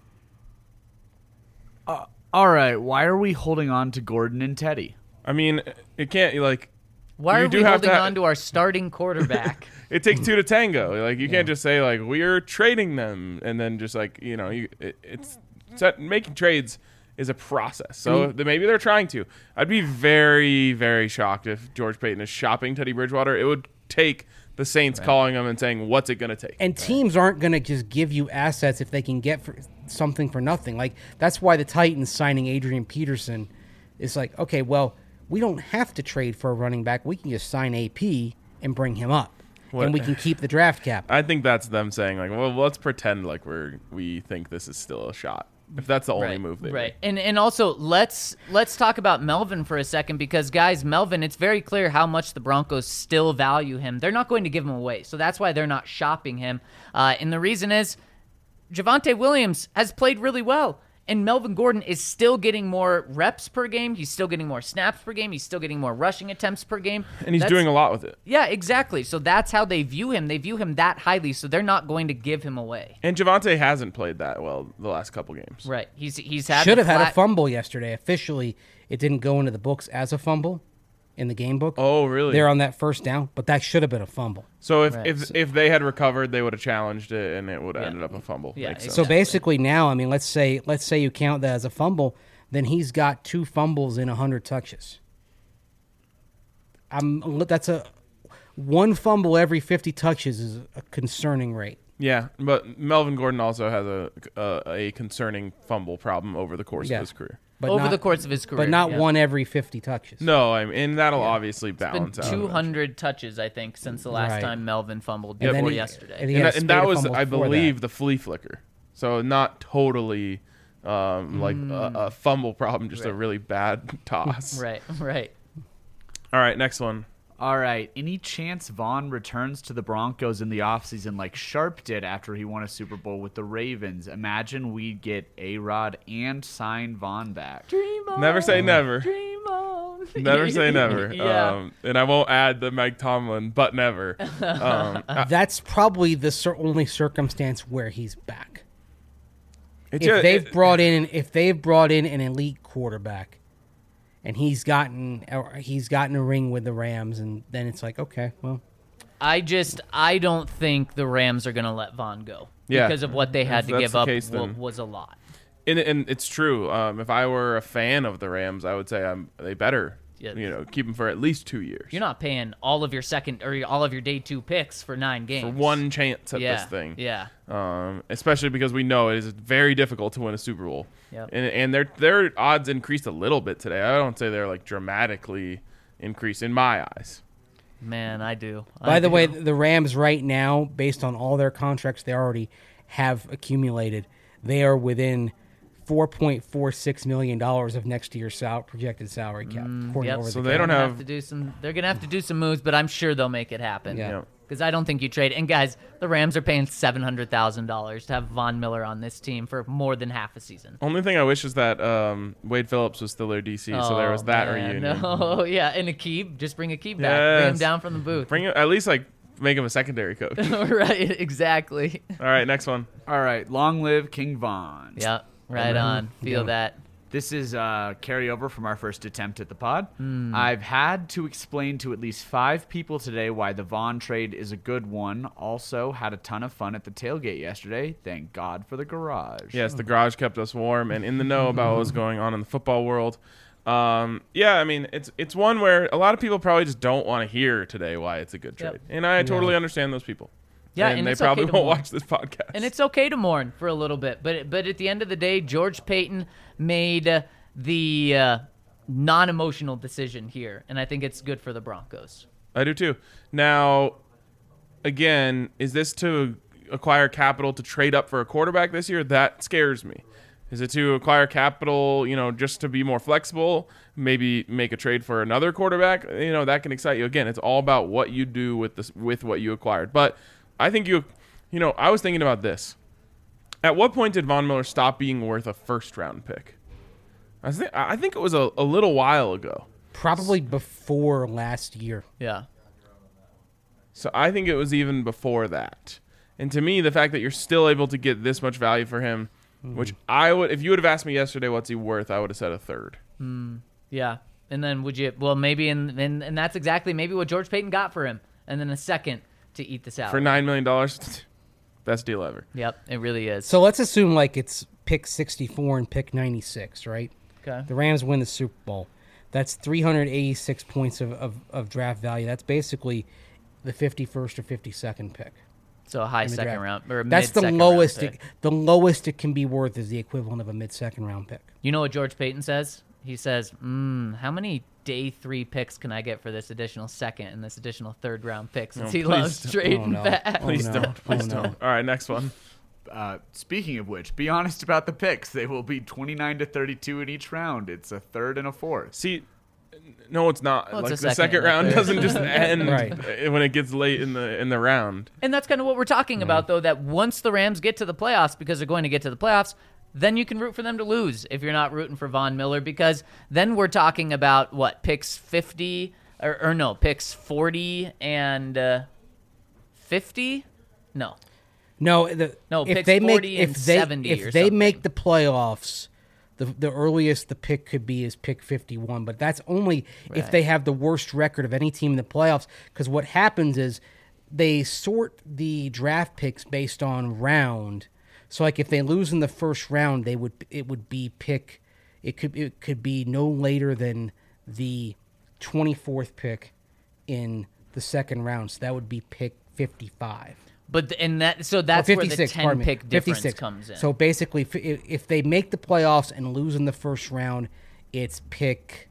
All right. Why are we holding on to Gordon and Teddy? I mean, it can't like. Why You are do we have holding to ha- on to our starting quarterback? It takes two to tango. Like you can't just say like we're trading them and then just like you know you it, it's, it's making trades is a process. So th- maybe they're trying to. I'd be very very shocked if George Payton is shopping Teddy Bridgewater. It would take the Saints calling him and saying what's it going to take. And teams aren't going to just give you assets if they can get for something for nothing. Like that's why the Titans signing Adrian Peterson is like, okay, well, we don't have to trade for a running back. We can just sign A P and bring him up, What- and we can keep the draft cap. I think that's them saying like, well, let's pretend like we're we think this is still a shot. If that's the only right, move they right. make. And and also let's let's talk about Melvin for a second because guys, Melvin, it's very clear how much the Broncos still value him. They're not going to give him away, so that's why they're not shopping him. Uh, and the reason is Javonte Williams has played really well. And Melvin Gordon is still getting more reps per game. He's still getting more snaps per game. He's still getting more rushing attempts per game. And he's That's, doing a lot with it. Yeah, exactly. So that's how they view him. They view him that highly, so they're not going to give him away. And Javonte hasn't played that well the last couple games. Right. He's he's had Should the have had flat- a fumble yesterday. Officially, it didn't go into the books as a fumble in the game book. Oh, really? They're on that first down, but that should have been a fumble. So if, Right. if if they had recovered, they would have challenged it, and it would have Yeah. ended up a fumble. Yeah, Makes sense. So Exactly. basically now, I mean, let's say let's say you count that as a fumble, then he's got two fumbles in one hundred touches. I'm that's a one fumble every fifty touches is a concerning rate. Yeah, but Melvin Gordon also has a a, a concerning fumble problem over the course Yeah. of his career. But over not, the course of his career. but not yeah. one every fifty touches. No, I mean, and that'll obviously It's been balance out. two hundred touches, I think, since the last Right. time Melvin fumbled And then before he- yesterday. and he And, had that, a and spate that of was, fumbles I before believe, that. the flea flicker. So not totally um, like a, a fumble problem, just a Right. really bad toss. right, right. All right, next one. All right. Any chance Vaughn returns to the Broncos in the offseason like Sharp did after he won a Super Bowl with the Ravens? Imagine we'd get A-Rod and sign Vaughn back. Dream on, Never say never. Dream on. Never say never. yeah. Um, and I won't add the Mike Tomlin, but never. Um, I- That's probably the cer- only circumstance where he's back. it If ju- they've it- brought in if they've brought in an elite quarterback, and he's gotten or he's gotten a ring with the Rams, and then it's like, okay, well, I just I don't think the Rams are going to let Vaughn go Yeah. because of what they had If to that's give the up case, wa- then- was a lot. And, and it's true. Um, if I were a fan of the Rams, I would say I'm, they better, Yeah. you know, keep them for at least two years. You're not paying all of your second or all of your day two picks for nine games. for one chance at yeah. this thing. Yeah. Um, especially because we know it is very difficult to win a Super Bowl. Yep. And and their their odds increased a little bit today. I don't say they're like dramatically increased in my eyes. Man, I do. I by the do. way, the Rams right now, based on all their contracts they already have accumulated, they are within four point four six million dollars of next year's sal- projected salary cap. according to Yep. over So the they cap. don't They're gonna have- to do some. They're gonna have to do some moves, but I'm sure they'll make it happen. Yeah. Yeah. Because I don't think you trade. And guys, the Rams are paying seven hundred thousand dollars to have Von Miller on this team for more than half a season. Only thing I wish is that um, Wade Phillips was still their D C, so there was Oh, that man, reunion. No, yeah, and Akib, just bring Akib back, bring him Yes. down from the booth. Bring it, at least like make him a secondary coach. right, exactly. All right, next one. All right. Long live King Vaughn. Yeah, right on. Feel Yeah. that. This is uh, carryover from our first attempt at the pod. Hmm. I've had to explain to at least five people today why the Vaughn trade is a good one. Also, had a ton of fun at the tailgate yesterday. Thank God for the garage. Yes, the garage kept us warm and in the know about what was going on in the football world. Um, yeah, I mean, it's it's one where a lot of people probably just don't want to hear today why it's a good Yep. trade, and I totally understand those people. Yeah, and, and they it's okay probably to won't mourn. watch this podcast. And it's okay to mourn for a little bit, but but at the end of the day, George Payton made uh, the uh, non-emotional decision here, and I think it's good for the Broncos. I do too. Now, again, is this to acquire capital to trade up for a quarterback this year? That scares me. Is it to acquire capital, you know, just to be more flexible, maybe make a trade for another quarterback? You know, that can excite you. Again, it's all about what you do with this with what you acquired. But I think you, you know, I was thinking about this. At what point did Von Miller stop being worth a first round pick? I think I think it was a, a little while ago. Probably before last year. Yeah. So I think it was even before that. And to me, the fact that you're still able to get this much value for him, which I would, if you would have asked me yesterday what's he worth, I would have said a third. Yeah. And then would you, well, maybe, and, and, and that's exactly maybe what George Payton got for him. And then a second to eat the salary. For nine million dollars, best deal ever. Yep, it really is. So let's assume like it's pick sixty-four and pick ninety-six, right? okay. The Rams win the Super Bowl. That's three hundred eighty-six points of, of, of draft value. That's basically the fifty-first or fifty-second pick. So a high in the second draft. round. Or a That's the mid-second round lowest. pick. It, the lowest it can be worth is the equivalent of a mid-second round pick. You know what George Payton says? He says, mm, how many day three picks can I get for this additional second and this additional third round pick since No, he please loves don't. trading Oh, no. back? Oh, Please no. don't. Please Oh, no. don't. All right, next one. Uh, speaking of which, be honest about the picks. They will be twenty-nine to thirty-two in each round. It's a third and a fourth. See, No, it's not. Well, it's like a the second second and round a third. doesn't just end Right. when it gets late in the in the round. And that's kind of what we're talking about, though, that once the Rams get to the playoffs, because they're going to get to the playoffs, then you can root for them to lose if you're not rooting for Von Miller, because then we're talking about, what, picks fifty, or, or no, picks forty and uh, fifty? No. No, the, No, if picks they make forty if and they seventy if or they something. make the playoffs, the the earliest the pick could be is pick fifty-one. But that's only if Right. they have the worst record of any team in the playoffs. Because what happens is they sort the draft picks based on round. So like if they lose in the first round, they would it would be pick. It could it could be no later than the twenty-fourth pick in the second round. So that would be pick fifty-five. But th- and that so Or that's where the fifty-six, ten pardon me, pick difference fifty-six. comes in. So basically, if, if they make the playoffs and lose in the first round, it's pick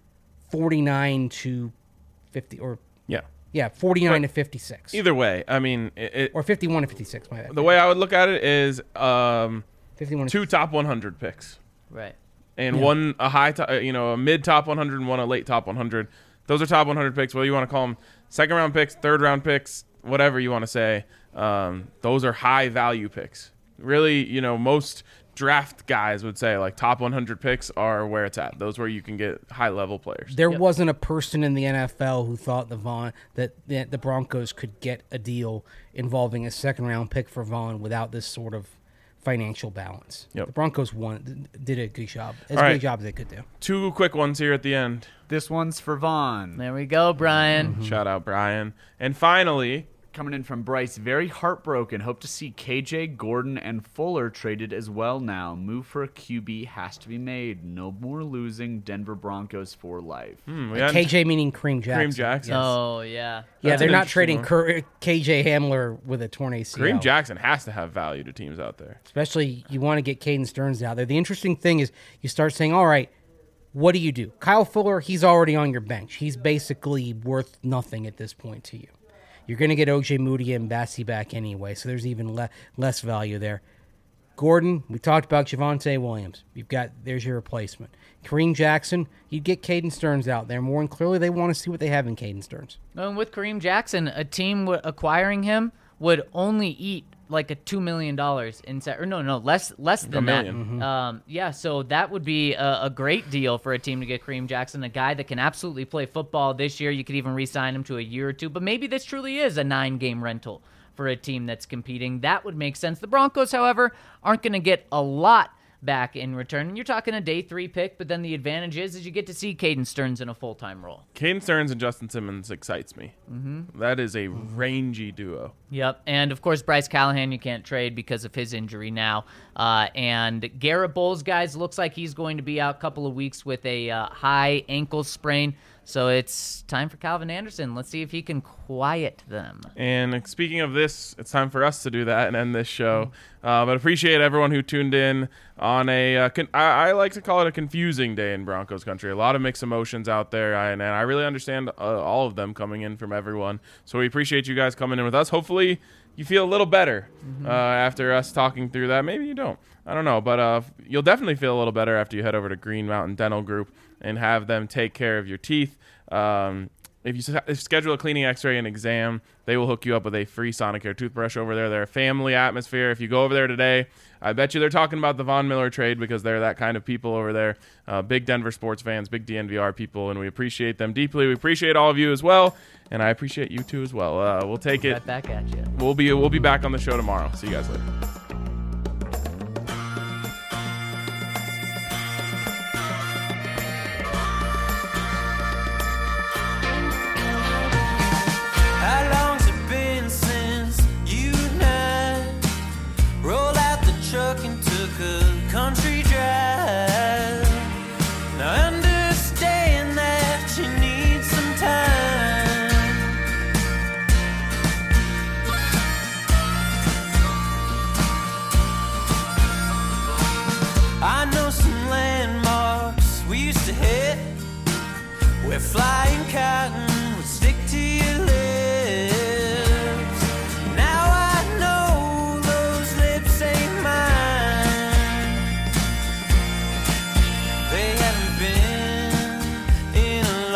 forty-nine to fifty, or Yeah. yeah, forty-nine But to fifty-six, Either way, I mean, it, it, or fifty-one to fifty-six. My bad. the way I would look at it is um, fifty-one. To two top one hundred picks. right. And Yeah. one a high, to, uh, you know, a mid top one hundred and one a late top one hundred. Those are top one hundred picks. Whether you want to call them second round picks, third round picks, whatever you want to say. Um, those are high value picks. Really, you know, most draft guys would say like top one hundred picks are where it's at. Those where you can get high level players. There Yep. wasn't a person in the N F L who thought the Vaughn that the, the Broncos could get a deal involving a second round pick for Vaughn without this sort of financial balance. Yep. The Broncos won, did a good job, as All good right. a job as they could do. Two quick ones here at the end. This one's for Vaughn. There we go, Brian. Shout out Brian. And finally, Coming in from Bryce, very heartbroken. Hope to see K J, Gordon, and Fuller traded as well now. Move for a Q B has to be made. No more losing. Denver Broncos for life. hmm, we hadn't- K J meaning Kareem Jackson. Kareem Jackson. Yes. Oh, yeah. Yeah, That's they're an not interesting trading one. Cur- K J Hamler with a torn A C L. Kareem Jackson has to have value to teams out there. Especially you want to get Caden Stearns out there. The interesting thing is you start saying, all right, what do you do? Kyle Fuller, he's already on your bench. He's basically worth nothing at this point to you. You're going to get O J Moody and Bassey back anyway, so there's even le- less value there. Gordon, we talked about Javonte Williams. You've got, there's your replacement. Kareem Jackson, you'd get Caden Stearns out there more, and clearly they want to see what they have in Caden Stearns. And with Kareem Jackson, a team w- acquiring him would only eat like a two million dollars inside, or no, no, less, less than that. million. Um, yeah, so that would be a, a great deal for a team to get Kareem Jackson, a guy that can absolutely play football this year. You could even re-sign him to a year or two, but maybe this truly is a nine-game rental for a team that's competing. That would make sense. The Broncos, however, aren't going to get a lot back in return. And you're talking a day three pick, but then the advantage is, is you get to see Caden Stearns in a full-time role. Caden Stearns and Justin Simmons excites me. Mm-hmm. That is a rangy duo. Yep, and of course Bryce Callahan you can't trade because of his injury now. Uh, and Garrett Bowles, guys, looks like he's going to be out a couple of weeks with a uh, high ankle sprain. So it's time for Calvin Anderson. Let's see if he can quiet them. And speaking of this, it's time for us to do that and end this show. Uh, but appreciate everyone who tuned in on a, uh, con- I-, I like to call it a confusing day in Broncos country. A lot of mixed emotions out there, I- and I really understand uh, all of them coming in from everyone. So we appreciate you guys coming in with us. Hopefully you feel a little better uh, after us talking through that. Maybe you don't. I don't know. But uh, you'll definitely feel a little better after you head over to Green Mountain Dental Group and have them take care of your teeth. Um, if you s- if you schedule a cleaning, x-ray, and exam, they will hook you up with a free Sonicare toothbrush over there. They're a family atmosphere. If you go over there today, I bet you they're talking about the Von Miller trade because they're that kind of people over there. Uh, big Denver sports fans, big D N V R people, and we appreciate them deeply. We appreciate all of you as well, and I appreciate you too as well. Uh, we'll take it. Right back at you. We'll be we'll be back on the show tomorrow. See you guys later. How long's it been since you and I rolled out the truck and took a country drive? Now I understand that you need some time. I know some landmarks we used to hit where flying cotton would stick to your lips. Now I know those lips ain't mine. They haven't been in a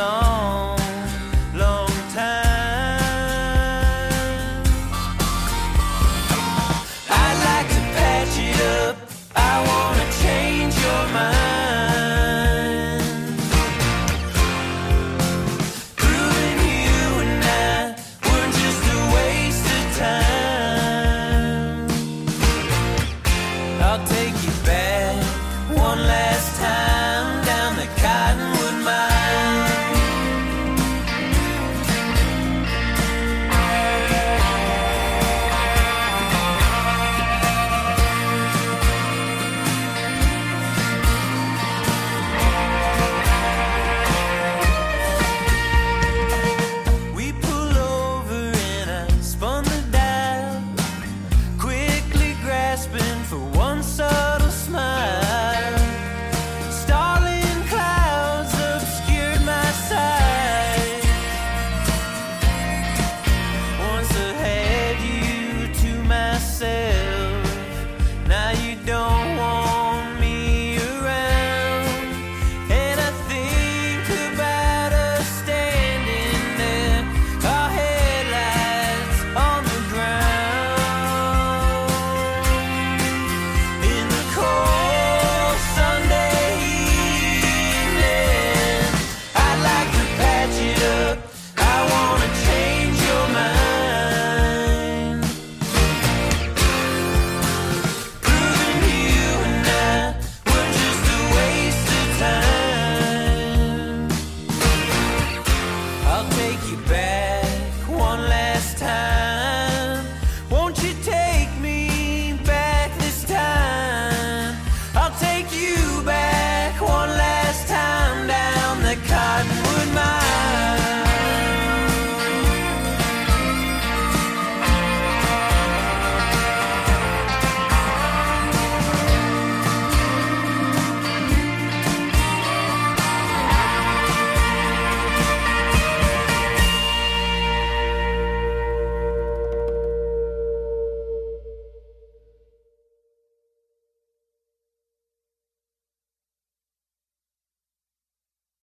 I'll take you back one last time down the Cottonwood Mine. We pull over and I spun the dial, quickly grasping for one subtle smile. Starling clouds obscured my sight. Once I had you to myself, now you don't